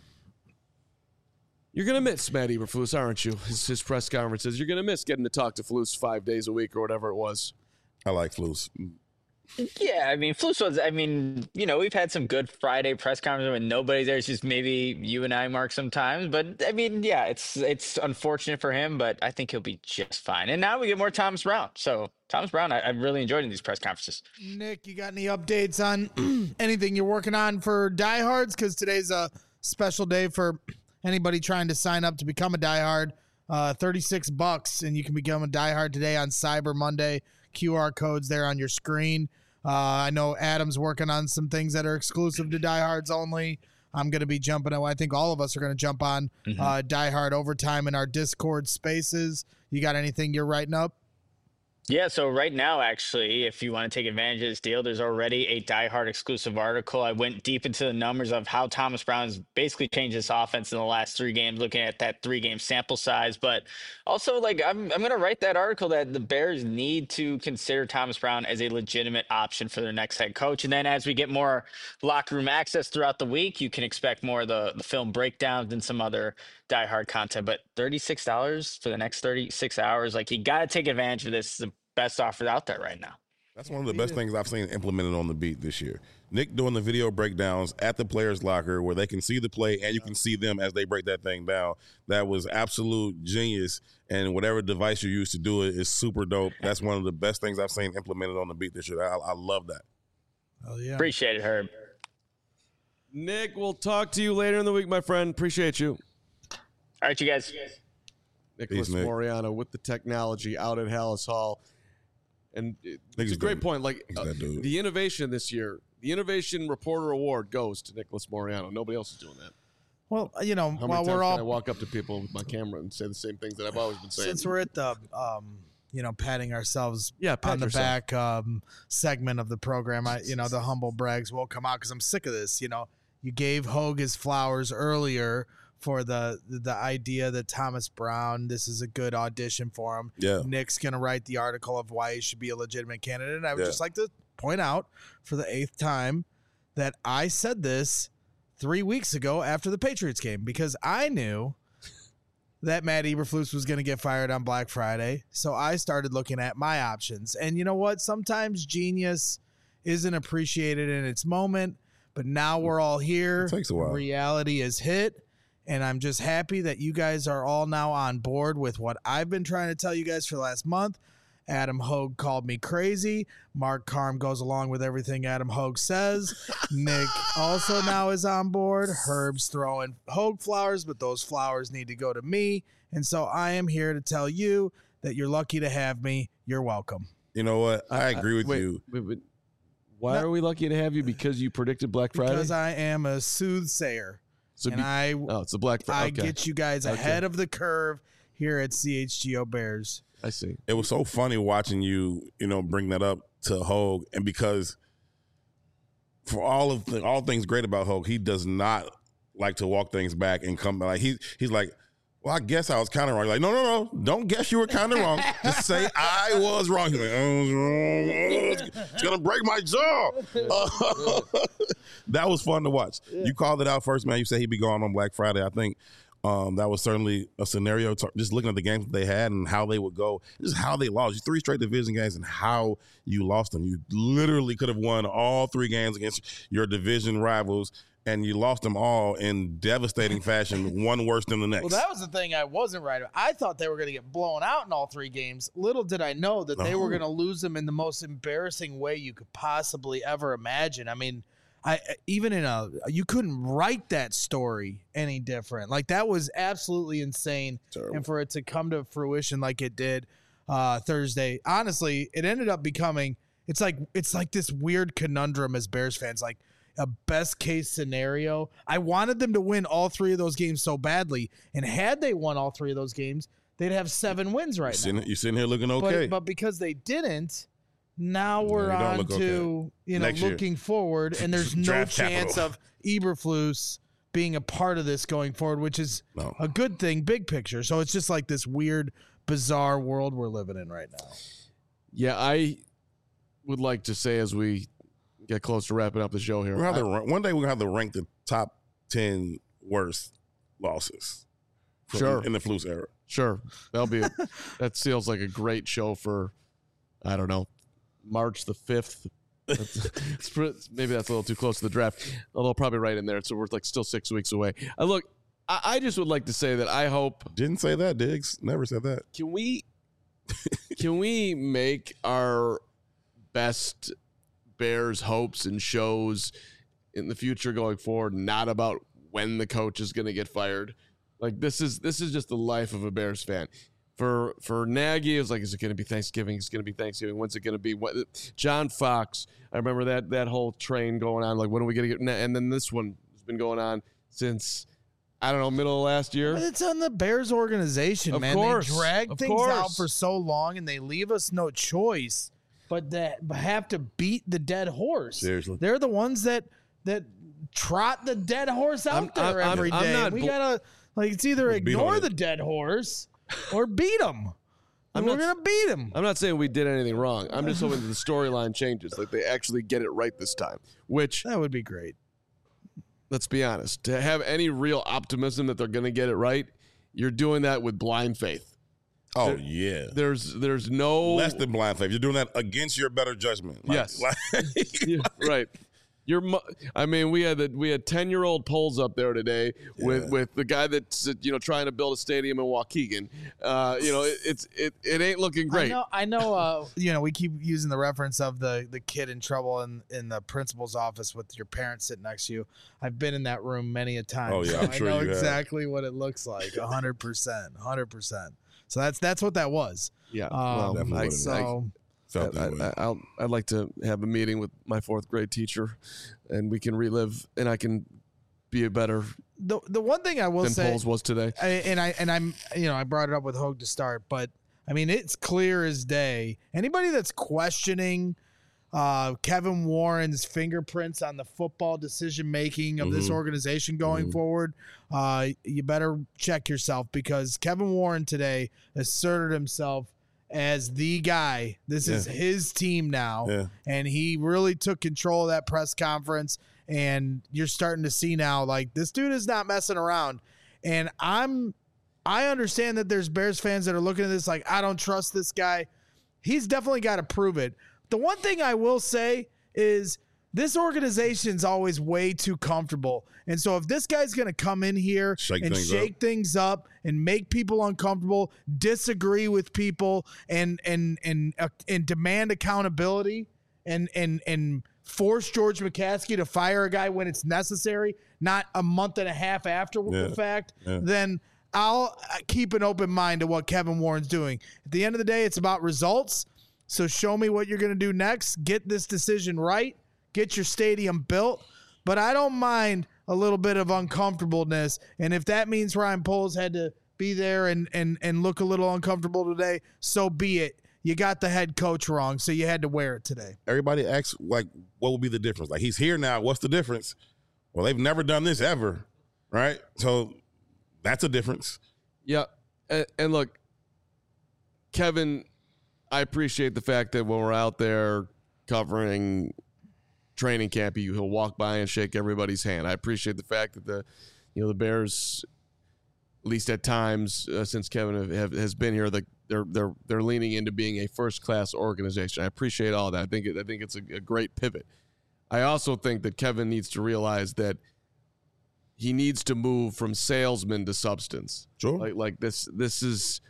you're going to miss Matt Eberflus, aren't you? His press conferences. You're going to miss getting to talk to Flus 5 days a week or whatever it was. I like Flus. Yeah, I mean, Flus was, we've had some good Friday press conferences when nobody's there. It's just maybe you and I, Mark, sometimes. But, I mean, yeah, it's unfortunate for him, but I think he'll be just fine. And now we get more Thomas Brown. So, Thomas Brown, I'm really enjoying these press conferences. Nick, you got any updates on anything you're working on for diehards? Because today's a special day for anybody trying to sign up to become a diehard. $36, and you can become a diehard today on Cyber Monday. QR codes there on your screen. I know Adam's working on some things that are exclusive to diehards only. I'm going to be jumping on. I think all of us are going to jump on diehard overtime in our Discord spaces. You got anything you're writing up? Yeah, so right now, actually, if you want to take advantage of this deal, there's already a Die Hard exclusive article. I went deep into the numbers of how Thomas Brown's basically changed his offense in the last 3 games, looking at that 3-game sample size. But also, like, I'm going to write that article that the Bears need to consider Thomas Brown as a legitimate option for their next head coach. And then as we get more locker room access throughout the week, you can expect more of the film breakdowns and some other Die Hard content. But $36 for the next 36 hours, like, you got to take advantage of this. The best offer out there right now. That's one of the best things I've seen implemented on the beat this year. Nick doing the video breakdowns at the players' locker where they can see the play and you can see them as they break that thing down. That was absolute genius. And whatever device you use to do it is super dope. That's one of the best things I've seen implemented on the beat this year. I love that. Oh, yeah. Appreciate it, Herb. Nick, we'll talk to you later in the week, my friend. Appreciate you. All right, you guys. Nicholas Moriano with the technology out at Hallis Hall. And it's a great point. Like the innovation this year, the Innovation Reporter Award goes to Nicholas Moriano. Nobody else is doing that. Well, you know, How many times can I walk up to people with my camera and say the same things that I've always been saying? Since we're at the, patting ourselves pat on the yourself. back segment of the program, the humble brags will come out because I'm sick of this. You know, you gave Hogue his flowers earlier for the idea that Thomas Brown, this is a good audition for him. Yeah. Nick's going to write the article of why he should be a legitimate candidate. And I would just like to point out for the 8th time that I said this 3 weeks ago after the Patriots game because I knew that Matt Eberflus was going to get fired on Black Friday. So I started looking at my options. And you know what? Sometimes genius isn't appreciated in its moment, but now we're all here. It takes a while. Reality is hit. And I'm just happy that you guys are all now on board with what I've been trying to tell you guys for the last month. Adam Hogue called me crazy. Mark Carm goes along with everything Adam Hogue says. Nick also now is on board. Herb's throwing Hogue flowers, but those flowers need to go to me. And so I am here to tell you that you're lucky to have me. You're welcome. You know what? I agree with you. Wait. Why are we lucky to have you? Because you predicted Black Friday? Because I am a soothsayer. So it's a Black Friday. I get you guys ahead of the curve here at CHGO Bears. I see. It was so funny watching you, bring that up to Hogue, and because for all things great about Hogue, he does not like to walk things back and come like he's like, well, I guess I was kind of wrong. Like, no, don't guess you were kind of wrong. Just say I was wrong. He's like, I was wrong. It's gonna break my jaw. That was fun to watch. Yeah. You called it out first, man. You said he'd be gone on Black Friday. I think that was certainly a scenario. Just looking at the games that they had and how they would go, just how they lost. 3 straight division games and how you lost them. You literally could have won all 3 games against your division rivals, and you lost them all in devastating fashion, one worse than the next. Well, that was the thing I wasn't right about. I thought they were going to get blown out in all 3 games. Little did I know that they were going to lose them in the most embarrassing way you could possibly ever imagine. I mean, you couldn't write that story any different. Like, that was absolutely insane. Terrible. And for it to come to fruition like it did Thursday, honestly, it ended up becoming it's like this weird conundrum as Bears fans, like a best case scenario. I wanted them to win all 3 of those games so badly, and had they won all 3 of those games, they'd have 7 wins right now. You're sitting here looking okay, but because they didn't. Now we're on to, looking forward, and there's no chance of Eberflus being a part of this going forward, which is a good thing, big picture. So it's just like this weird, bizarre world we're living in right now. Yeah, I would like to say as we get close to wrapping up the show here. One day we're going to have to rank the top 10 worst losses in the Flus era. Sure. That feels like a great show for, I don't know, March the 5th. Maybe that's a little too close to the draft, although probably right in there. So we're like still 6 weeks away. Look, I just would like to say that I hope. Didn't say that, Diggs. Never said that. Can we make our best Bears hopes and shows in the future going forward not about when the coach is going to get fired? Like, this is just the life of a Bears fan. For Nagy, it was like, is it going to be Thanksgiving? It's going to be Thanksgiving. When's it going to be? John Fox, I remember that whole train going on. Like, when are we going to get? And then this one has been going on since I don't know, middle of last year. But it's on the Bears organization, Of man. course. They drag Of things out course. for so long, and they leave us no choice but that have to beat the dead horse. Seriously. They're the ones that trot the dead horse out there every day. We gotta it's either ignore the dead horse or beat them. We're gonna beat him. I'm not saying we did anything wrong. I'm just hoping that the storyline changes, like they actually get it right this time. Which that would be great. Let's be honest. To have any real optimism that they're going to get it right, you're doing that with blind faith. Oh, yeah. There's no less than blind faith. You're doing that against your better judgment. Yes. Yeah, right. We had 10-year-old polls up there today with the guy that's trying to build a stadium in Waukegan. It ain't looking great. I know. We keep using the reference of the kid in trouble in the principal's office with your parents sitting next to you. I've been in that room many a time. Oh yeah, so I'm sure I know you exactly what it looks like. 100%. So that's what that was. Yeah. I'd like to have a meeting with my 4th grade teacher, and we can relive, and I can be a better. The one thing I will than say polls was today, I brought it up with Hogue to start, but I mean it's clear as day. Anybody that's questioning Kevin Warren's fingerprints on the football decision making of this organization going forward, you better check yourself, because Kevin Warren today asserted himself as the guy. This is his team now, and he really took control of that press conference, and you're starting to see now, like, this dude is not messing around. And I understand that there's Bears fans that are looking at this like, I don't trust this guy. He's definitely got to prove it. The one thing I will say is this organization's always way too comfortable. And so if this guy's going to come in here and shake things up and make people uncomfortable, disagree with people, and demand accountability and force George McCaskey to fire a guy when it's necessary, not a month and a half after the fact, then I'll keep an open mind to what Kevin Warren's doing. At the end of the day, it's about results. So show me what you're going to do next. Get this decision right. Get your stadium built. But I don't mind a little bit of uncomfortableness. And if that means Ryan Poles had to be there and look a little uncomfortable today, so be it. You got the head coach wrong, so you had to wear it today. Everybody asks, like, what will be the difference? Like, he's here now. What's the difference? Well, they've never done this ever, right? So that's a difference. Yeah. And look, Kevin, I appreciate the fact that when we're out there covering training camp, he'll walk by and shake everybody's hand. I appreciate the fact that the Bears, at least at times since Kevin has been here, they're leaning into being a first-class organization. I appreciate all that. I think it's a great pivot. I also think that Kevin needs to realize that he needs to move from salesman to substance. Sure. Like this is,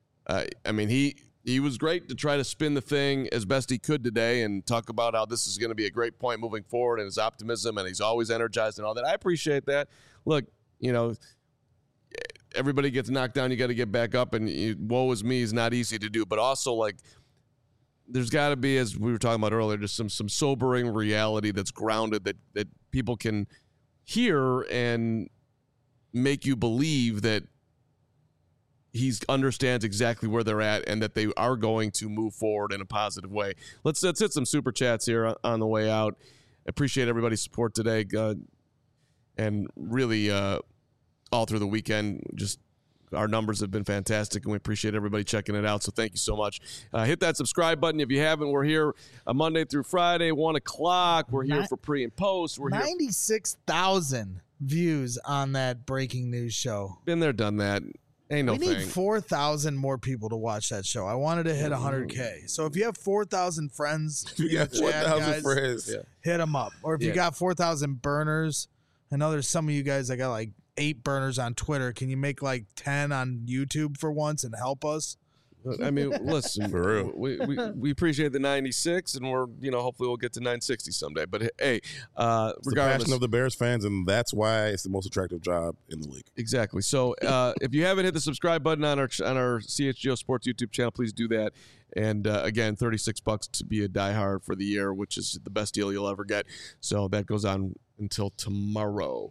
He was great to try to spin the thing as best he could today and talk about how this is going to be a great point moving forward and his optimism, and he's always energized and all that. I appreciate that. Look, everybody gets knocked down. You got to get back up, and woe is me is not easy to do. But also, like, there's got to be, as we were talking about earlier, just some sobering reality that's grounded that people can hear and make you believe that he understands exactly where they're at and that they are going to move forward in a positive way. Let's hit some super chats here on the way out. Appreciate everybody's support today, and really all through the weekend. Just our numbers have been fantastic, and we appreciate everybody checking it out. So thank you so much. Hit that subscribe button if you haven't. We're here Monday through Friday, 1 o'clock. We're here for pre and post. We're 96,000 views on that breaking news show. Been there, done that. Ain't no we thing. need 4,000 more people to watch that show. I wanted to hit 100K. So if you have 4,000 friends, you got 4,000 friends, hit them up. Or if you got 4,000 burners, I know there's some of you guys that got like 8 burners on Twitter. Can you make like 10 on YouTube for once and help us? I mean, listen, for real. We appreciate the 96, and we're hopefully we'll get to 960 someday. But hey, it's regardless, the passion of the Bears fans, and that's why it's the most attractive job in the league. Exactly. So if you haven't hit the subscribe button on our CHGO Sports YouTube channel, please do that. And again, $36 to be a diehard for the year, which is the best deal you'll ever get. So that goes on until tomorrow.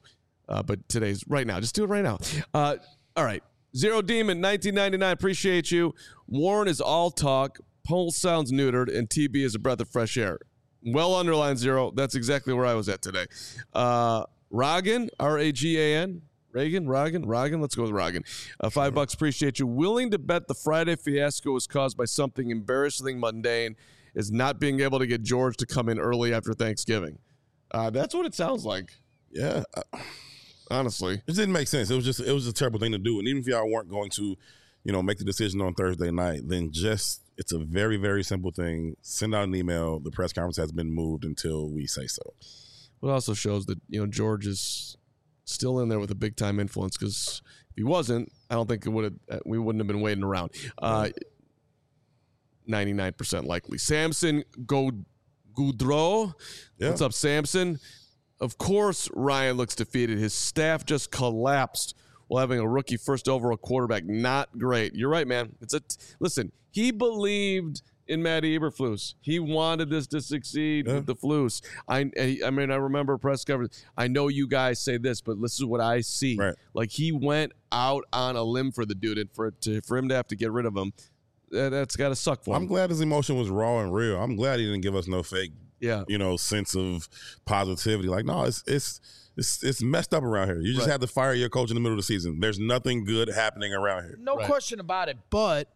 But today's right now. Just do it right now. All right. Zero Demon, 1999. Appreciate you. Warren is all talk. Pulse sounds neutered, and TB is a breath of fresh air. Well underlined, Zero. That's exactly where I was at today. Rogan, R-A-G-A-N. Rogan. Let's go with Rogan. $5. Appreciate you. Willing to bet the Friday fiasco was caused by something embarrassingly mundane, is not being able to get George to come in early after Thanksgiving. That's what it sounds like. Yeah. Honestly, it didn't make sense. It was a terrible thing to do. And even if y'all weren't going to, make the decision on Thursday night, then it's a very, very simple thing. Send out an email. The press conference has been moved until we say so. It also shows that, George is still in there with a big time influence, because if he wasn't, I don't think we wouldn't have been waiting around. 99% likely. Samson Goudreau. Yeah. What's up, Samson? Of course, Ryan looks defeated. His staff just collapsed while having a rookie first overall quarterback. Not great. You're right, man. Listen, he believed in Matty Eberflus. He wanted this to succeed with the Flus. I remember press coverage. I know you guys say this, but this is what I see. Right. Like, he went out on a limb for the dude, and for him to have to get rid of him, that's got to suck for him. I'm glad his emotion was raw and real. I'm glad he didn't give us no fake, sense of positivity. Like, no, it's messed up around here. You just had to fire your coach in the middle of the season. There's nothing good happening around here. No question about it. But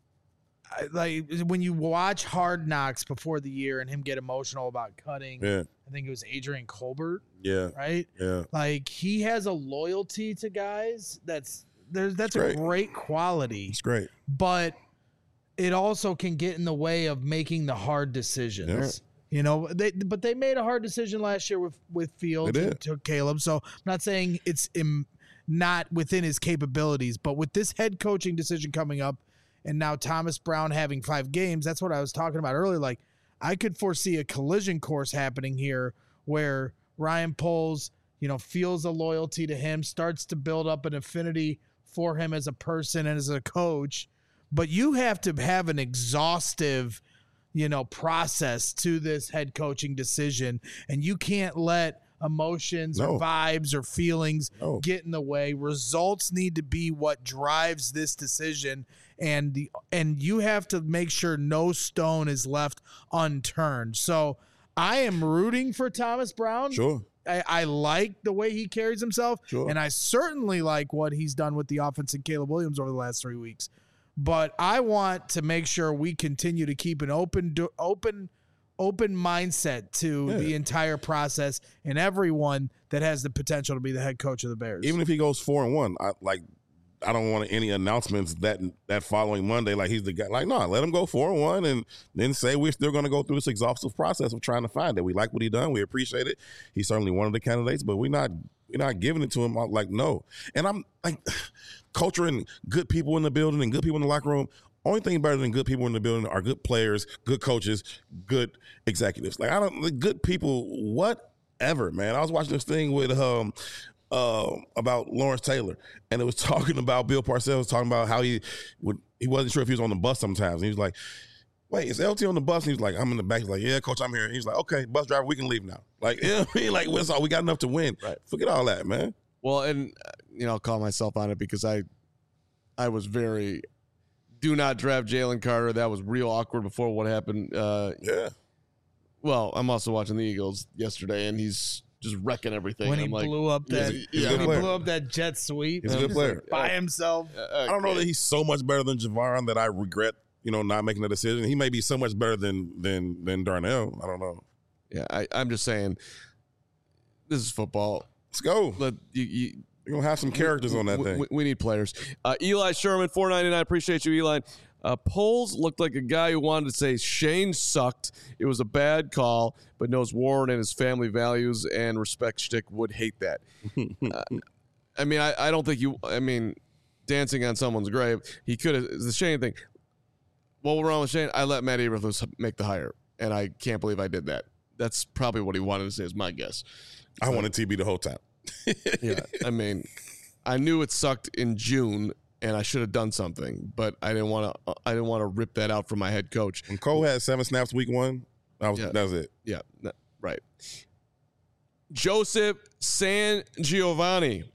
when you watch Hard Knocks before the year and him get emotional about cutting, I think it was Adrian Colbert. Yeah. Right? Yeah. Like, he has a loyalty to guys that's a great quality. It's great. But it also can get in the way of making the hard decisions. But they made a hard decision last year with Fields and took Caleb. So I'm not saying it's not within his capabilities, but with this head coaching decision coming up, and now Thomas Brown having 5 games, that's what I was talking about earlier. Like, I could foresee a collision course happening here where Ryan Poles, feels a loyalty to him, starts to build up an affinity for him as a person and as a coach. But you have to have an exhaustive, process to this head coaching decision, and you can't let emotions or vibes or feelings get in the way. Results need to be what drives this decision, and you have to make sure no stone is left unturned. So I am rooting for Thomas Brown. Sure. I like the way he carries himself, and I certainly like what he's done with the offense and Caleb Williams over the last 3 weeks. But I want to make sure we continue to keep an open mindset to the entire process and everyone that has the potential to be the head coach of the Bears. Even if he goes 4-1, I don't want any announcements that following Monday. Like, he's the guy. Like, no, let him go 4-1 and then say we're still going to go through this exhaustive process of trying to find it. We like what he done. We appreciate it. He's certainly one of the candidates, but we're not giving it to him. Like, no. And I'm like, culture and good people in the building and good people in the locker room. Only thing better than good people in the building are good players, good coaches, good executives. Like, good people, whatever, man. I was watching this thing with about Lawrence Taylor, and it was talking about Bill Parcells talking about how he wasn't sure if he was on the bus sometimes. And he was like, wait, is LT on the bus? And he was like, I'm in the back. He's like, yeah, coach, I'm here. And he's like, okay, bus driver, we can leave now. Like, we got enough to win. Right. Forget all that, man. Well, and I'll call myself on it because I was very do not draft Jalen Carter. That was real awkward before what happened. Well, I'm also watching the Eagles yesterday, and he's just wrecking everything. When he blew up that jet sweep, he's a good player by himself. I don't know that he's so much better than Javon that I regret, not making a decision. He may be so much better than Darnell. I don't know. Yeah, I'm just saying, this is football. Let's go. You're going to have some characters on that thing. We need players. Eli Sherman, $4.99. Appreciate you, Eli. Poles looked like a guy who wanted to say Shane sucked. It was a bad call, but knows Warren and his family values and respect shtick would hate that. I don't think dancing on someone's grave. He could have. The Shane thing. What was wrong with Shane? I let Matt Eberflus make the hire, and I can't believe I did that. That's probably what he wanted to say, is my guess. I wanted TB the whole time. Yeah, I knew it sucked in June, and I should have done something, but I didn't want to rip that out from my head coach. When Cole had 7 snaps week 1, that was it. Yeah, right. Joseph San Giovanni,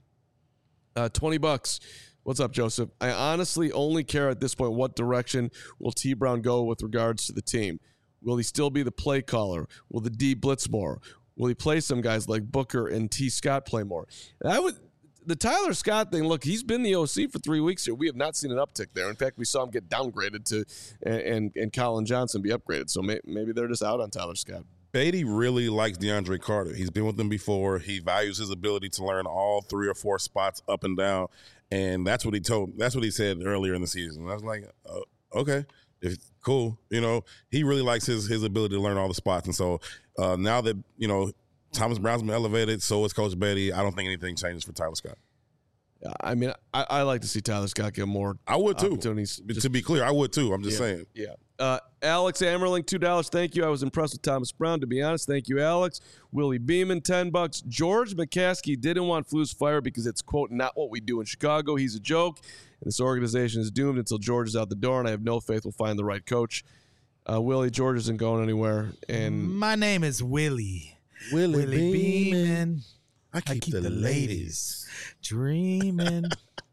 $20. What's up, Joseph? I honestly only care at this point what direction will T. Brown go with regards to the team. Will he still be the play caller? Will the D blitz more? Will he play some guys like Booker and T. Scott play more? The Tyler Scott thing, look, he's been the OC for 3 weeks here. We have not seen an uptick there. In fact, we saw him get downgraded to and Colin Johnson be upgraded. So maybe they're just out on Tyler Scott. Beatty really likes DeAndre Carter. He's been with them before. He values his ability to learn all 3 or 4 spots up and down, and that's what he said earlier in the season. I was like, okay, cool. He really likes his ability to learn all the spots, and so now that Thomas Brown's been elevated, so is Coach Beatty. I don't think anything changes for Tyler Scott. I mean, I like to see Tyler Scott get more. I would too. Opportunities. To be clear, I would too. I'm just saying. Yeah. Alex Ammerling, $2. Thank you. I was impressed with Thomas Brown, to be honest. Thank you, Alex. Willie Beeman, $10. George McCaskey didn't want Flus fired because it's, quote, not what we do in Chicago. He's a joke, and this organization is doomed until George is out the door, and I have no faith we'll find the right coach. Willie, George isn't going anywhere. And my name is Willie. Willie Beeman. I keep the ladies dreaming.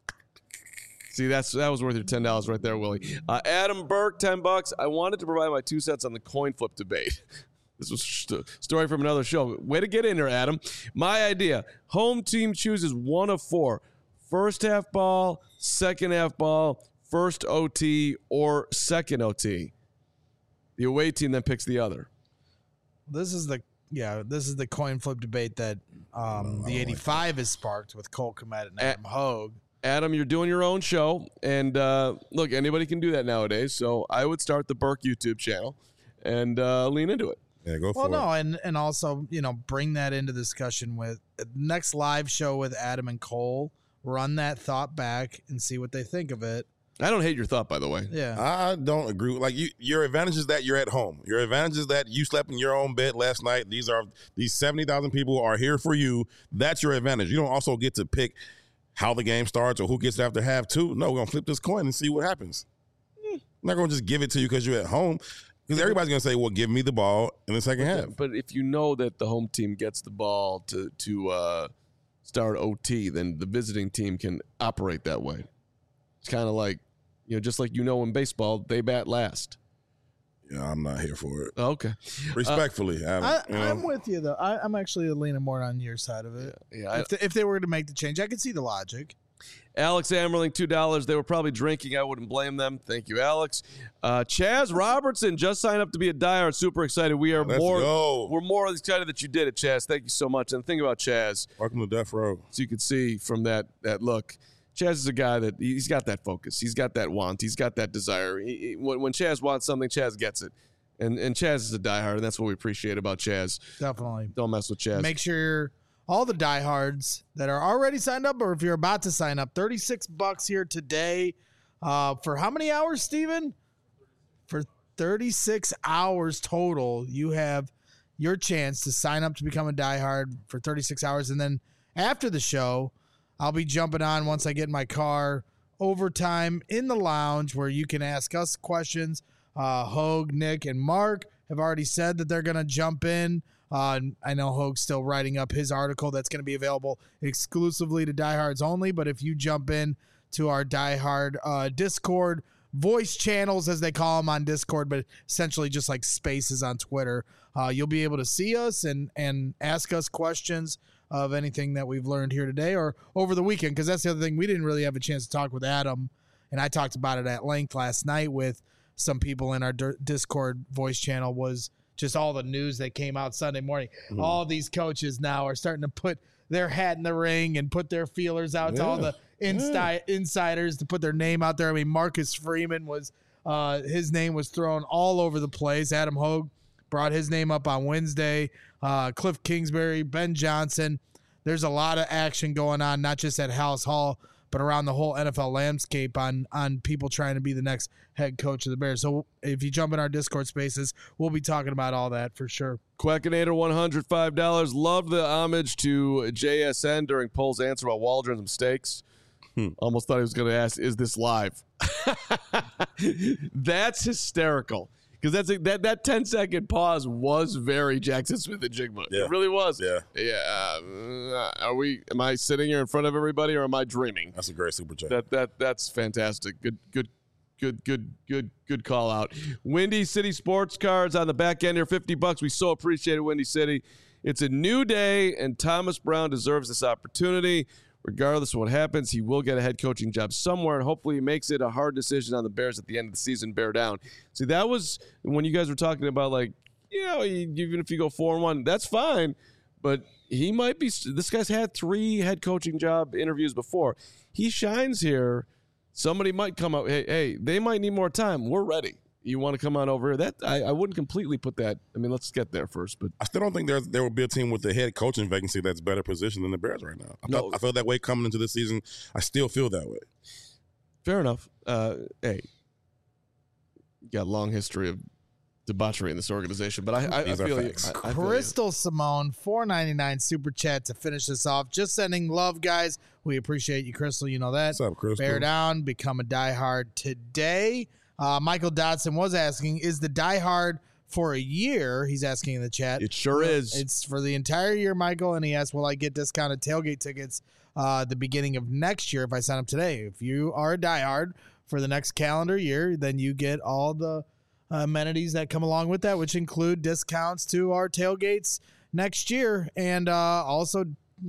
See, that was worth your $10 right there, Willie. Adam Burke, $10. I wanted to provide my 2 cents on the coin flip debate. This was a story from another show. Way to get in there, Adam. My idea: home team chooses 1 of 4: first half ball, second half ball, first OT, or second OT. The away team then picks the other. This is the coin flip debate that the 85 has sparked with Cole Kmet and Adam Hogue. Adam, you're doing your own show, and look, anybody can do that nowadays. So I would start the Burke YouTube channel and lean into it. Yeah, go for it. Well, no, and also bring that into discussion with next live show with Adam and Cole. Run that thought back and see what they think of it. I don't hate your thought, by the way. Yeah, I don't agree. Like your advantage is that you're at home. Your advantage is that you slept in your own bed last night. These 70,000 people are here for you. That's your advantage. You don't also get to pick how the game starts or who gets it after half 2. No, we're gonna flip this coin and see what happens. I'm not gonna just give it to you because you're at home. Because everybody's gonna say, "Well, give me the ball in the second half." But if you know that the home team gets the ball to start OT, then the visiting team can operate that way. It's kind of like, just like in baseball, they bat last. Yeah, I'm not here for it. Okay. Respectfully. I'm with you, though. I'm actually leaning more on your side of it. Yeah. If they were to make the change, I could see the logic. Alex Ammerling, $2. They were probably drinking. I wouldn't blame them. Thank you, Alex. Chaz Robertson just signed up to be a diehard. Super excited. We're more excited that you did it, Chaz. Thank you so much. And the thing about Chaz, welcome to Death Row. So you can see from that look, Chaz is a guy that he's got that focus. He's got that want. He's got that desire. When Chaz wants something, Chaz gets it. And Chaz is a diehard, and that's what we appreciate about Chaz. Definitely. Don't mess with Chaz. Make sure all the diehards that are already signed up, or if you're about to sign up, $36 here today. For how many hours, Steven? For 36 hours total, you have your chance to sign up to become a diehard for 36 hours. And then after the show, I'll be jumping on once I get in my car, overtime in the lounge where you can ask us questions. Hogue, Nick, and Mark have already said that they're going to jump in. I know Hogue's still writing up his article that's going to be available exclusively to diehards only. But if you jump in to our diehard Discord voice channels, as they call them on Discord, but essentially just like spaces on Twitter, you'll be able to see us and ask us questions of anything that we've learned here today or over the weekend. Because that's the other thing. We didn't really have a chance to talk with Adam, and I talked about it at length last night with some people in our Discord voice channel, was just all the news that came out Sunday morning. All these coaches now are starting to put their hat in the ring and put their feelers out to all the insiders to put their name out there. I mean, Marcus Freeman was his name was thrown all over the place. Adam Hogue brought his name up on Wednesday. Cliff Kingsbury, Ben Johnson. There's a lot of action going on, not just at House Hall, but around the whole NFL landscape on people trying to be the next head coach of the Bears. So if you jump in our Discord spaces, we'll be talking about all that for sure. Quackinator, $105. Loved the homage to JSN during Pole's answer about Waldron's mistakes. Almost thought he was going to ask, is this live? That's hysterical. because that 10-second pause was very Jackson Smith and Jigma. Yeah. It really was. Yeah. Yeah. Am I sitting here in front of everybody, or am I dreaming? That's a great super chat. That's fantastic. Good call out. Windy City Sports Cards on the back end here, $50. We so appreciate it, Windy City. It's a new day, and Thomas Brown deserves this opportunity. Regardless of what happens, he will get a head coaching job somewhere, and hopefully he makes it a hard decision on the Bears at the end of the season, bear down. See, that was when you guys were talking about, like, even if you go 4-1, that's fine, but he might be – this guy's had 3 head coaching job interviews before. He shines here. Somebody might come up, hey, they might need more time. We're ready. You want to come on over here? That I wouldn't completely put that. I mean, let's get there first. But I still don't think there will be a team with the head coaching vacancy that's better positioned than the Bears right now. I feel that way coming into this season. I still feel that way. Fair enough. Hey, you got a long history of debauchery in this organization, but I feel you. Crystal Simone, $4.99 super chat to finish this off. Just sending love, guys. We appreciate you, Crystal. You know that. What's up, Crystal? Bear down, become a diehard today. Michael Dodson was asking, is the diehard for a year? He's asking in the chat. It sure is. It's for the entire year, Michael. And he asked, will I get discounted tailgate tickets the beginning of next year if I sign up today? If you are a diehard for the next calendar year, then you get all the amenities that come along with that, which include discounts to our tailgates next year. And also,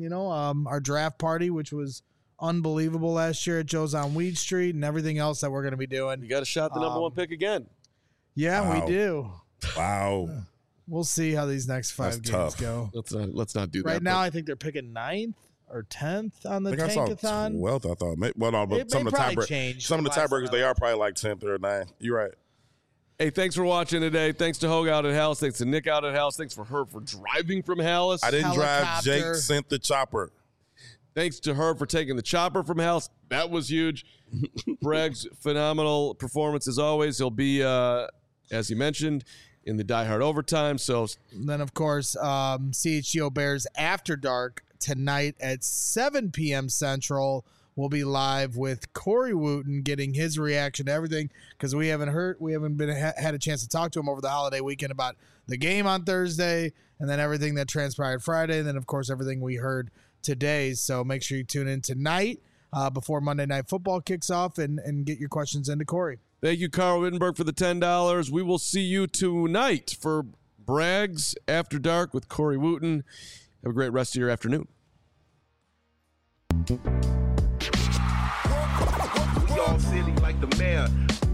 our draft party, which was unbelievable last year at Joe's on Weed Street, and everything else that we're going to be doing. You got a shot the number 1 pick again. Yeah, Wow. we do. Wow. We'll see how these next 5 games tough. go. Let's not do that. Right now, I think they're picking 9th or 10th on the I think I saw Tankathon. 12th, I thought. Well, no, but It some may of the probably change some of the last tiebreakers, time they I are probably like 10th or 9th. You're right. Hey, thanks for watching today. Thanks to Hogue out at Hallis. Thanks to Nick out at Hallis. Thanks for her for driving from Hallis. I didn't drive. Helicopter. Jake sent the chopper. Thanks to her for taking the chopper from Hallis. That was huge. Bragg's phenomenal performance as always. He'll be, as he mentioned, in the Die Hard overtime. So then, of course, CHGO Bears After Dark tonight at 7 p.m. Central. We'll be live with Corey Wooten getting his reaction to everything because we haven't had a chance to talk to him over the holiday weekend about the game on Thursday and then everything that transpired Friday and then, of course, everything we heard today. So make sure you tune in tonight before Monday Night Football kicks off and get your questions into Corey. Thank you, Carl Wittenberg, for the $10. We will see you tonight for Bragg's After Dark with Corey Wooten. Have a great rest of your afternoon. We all silly like the mayor.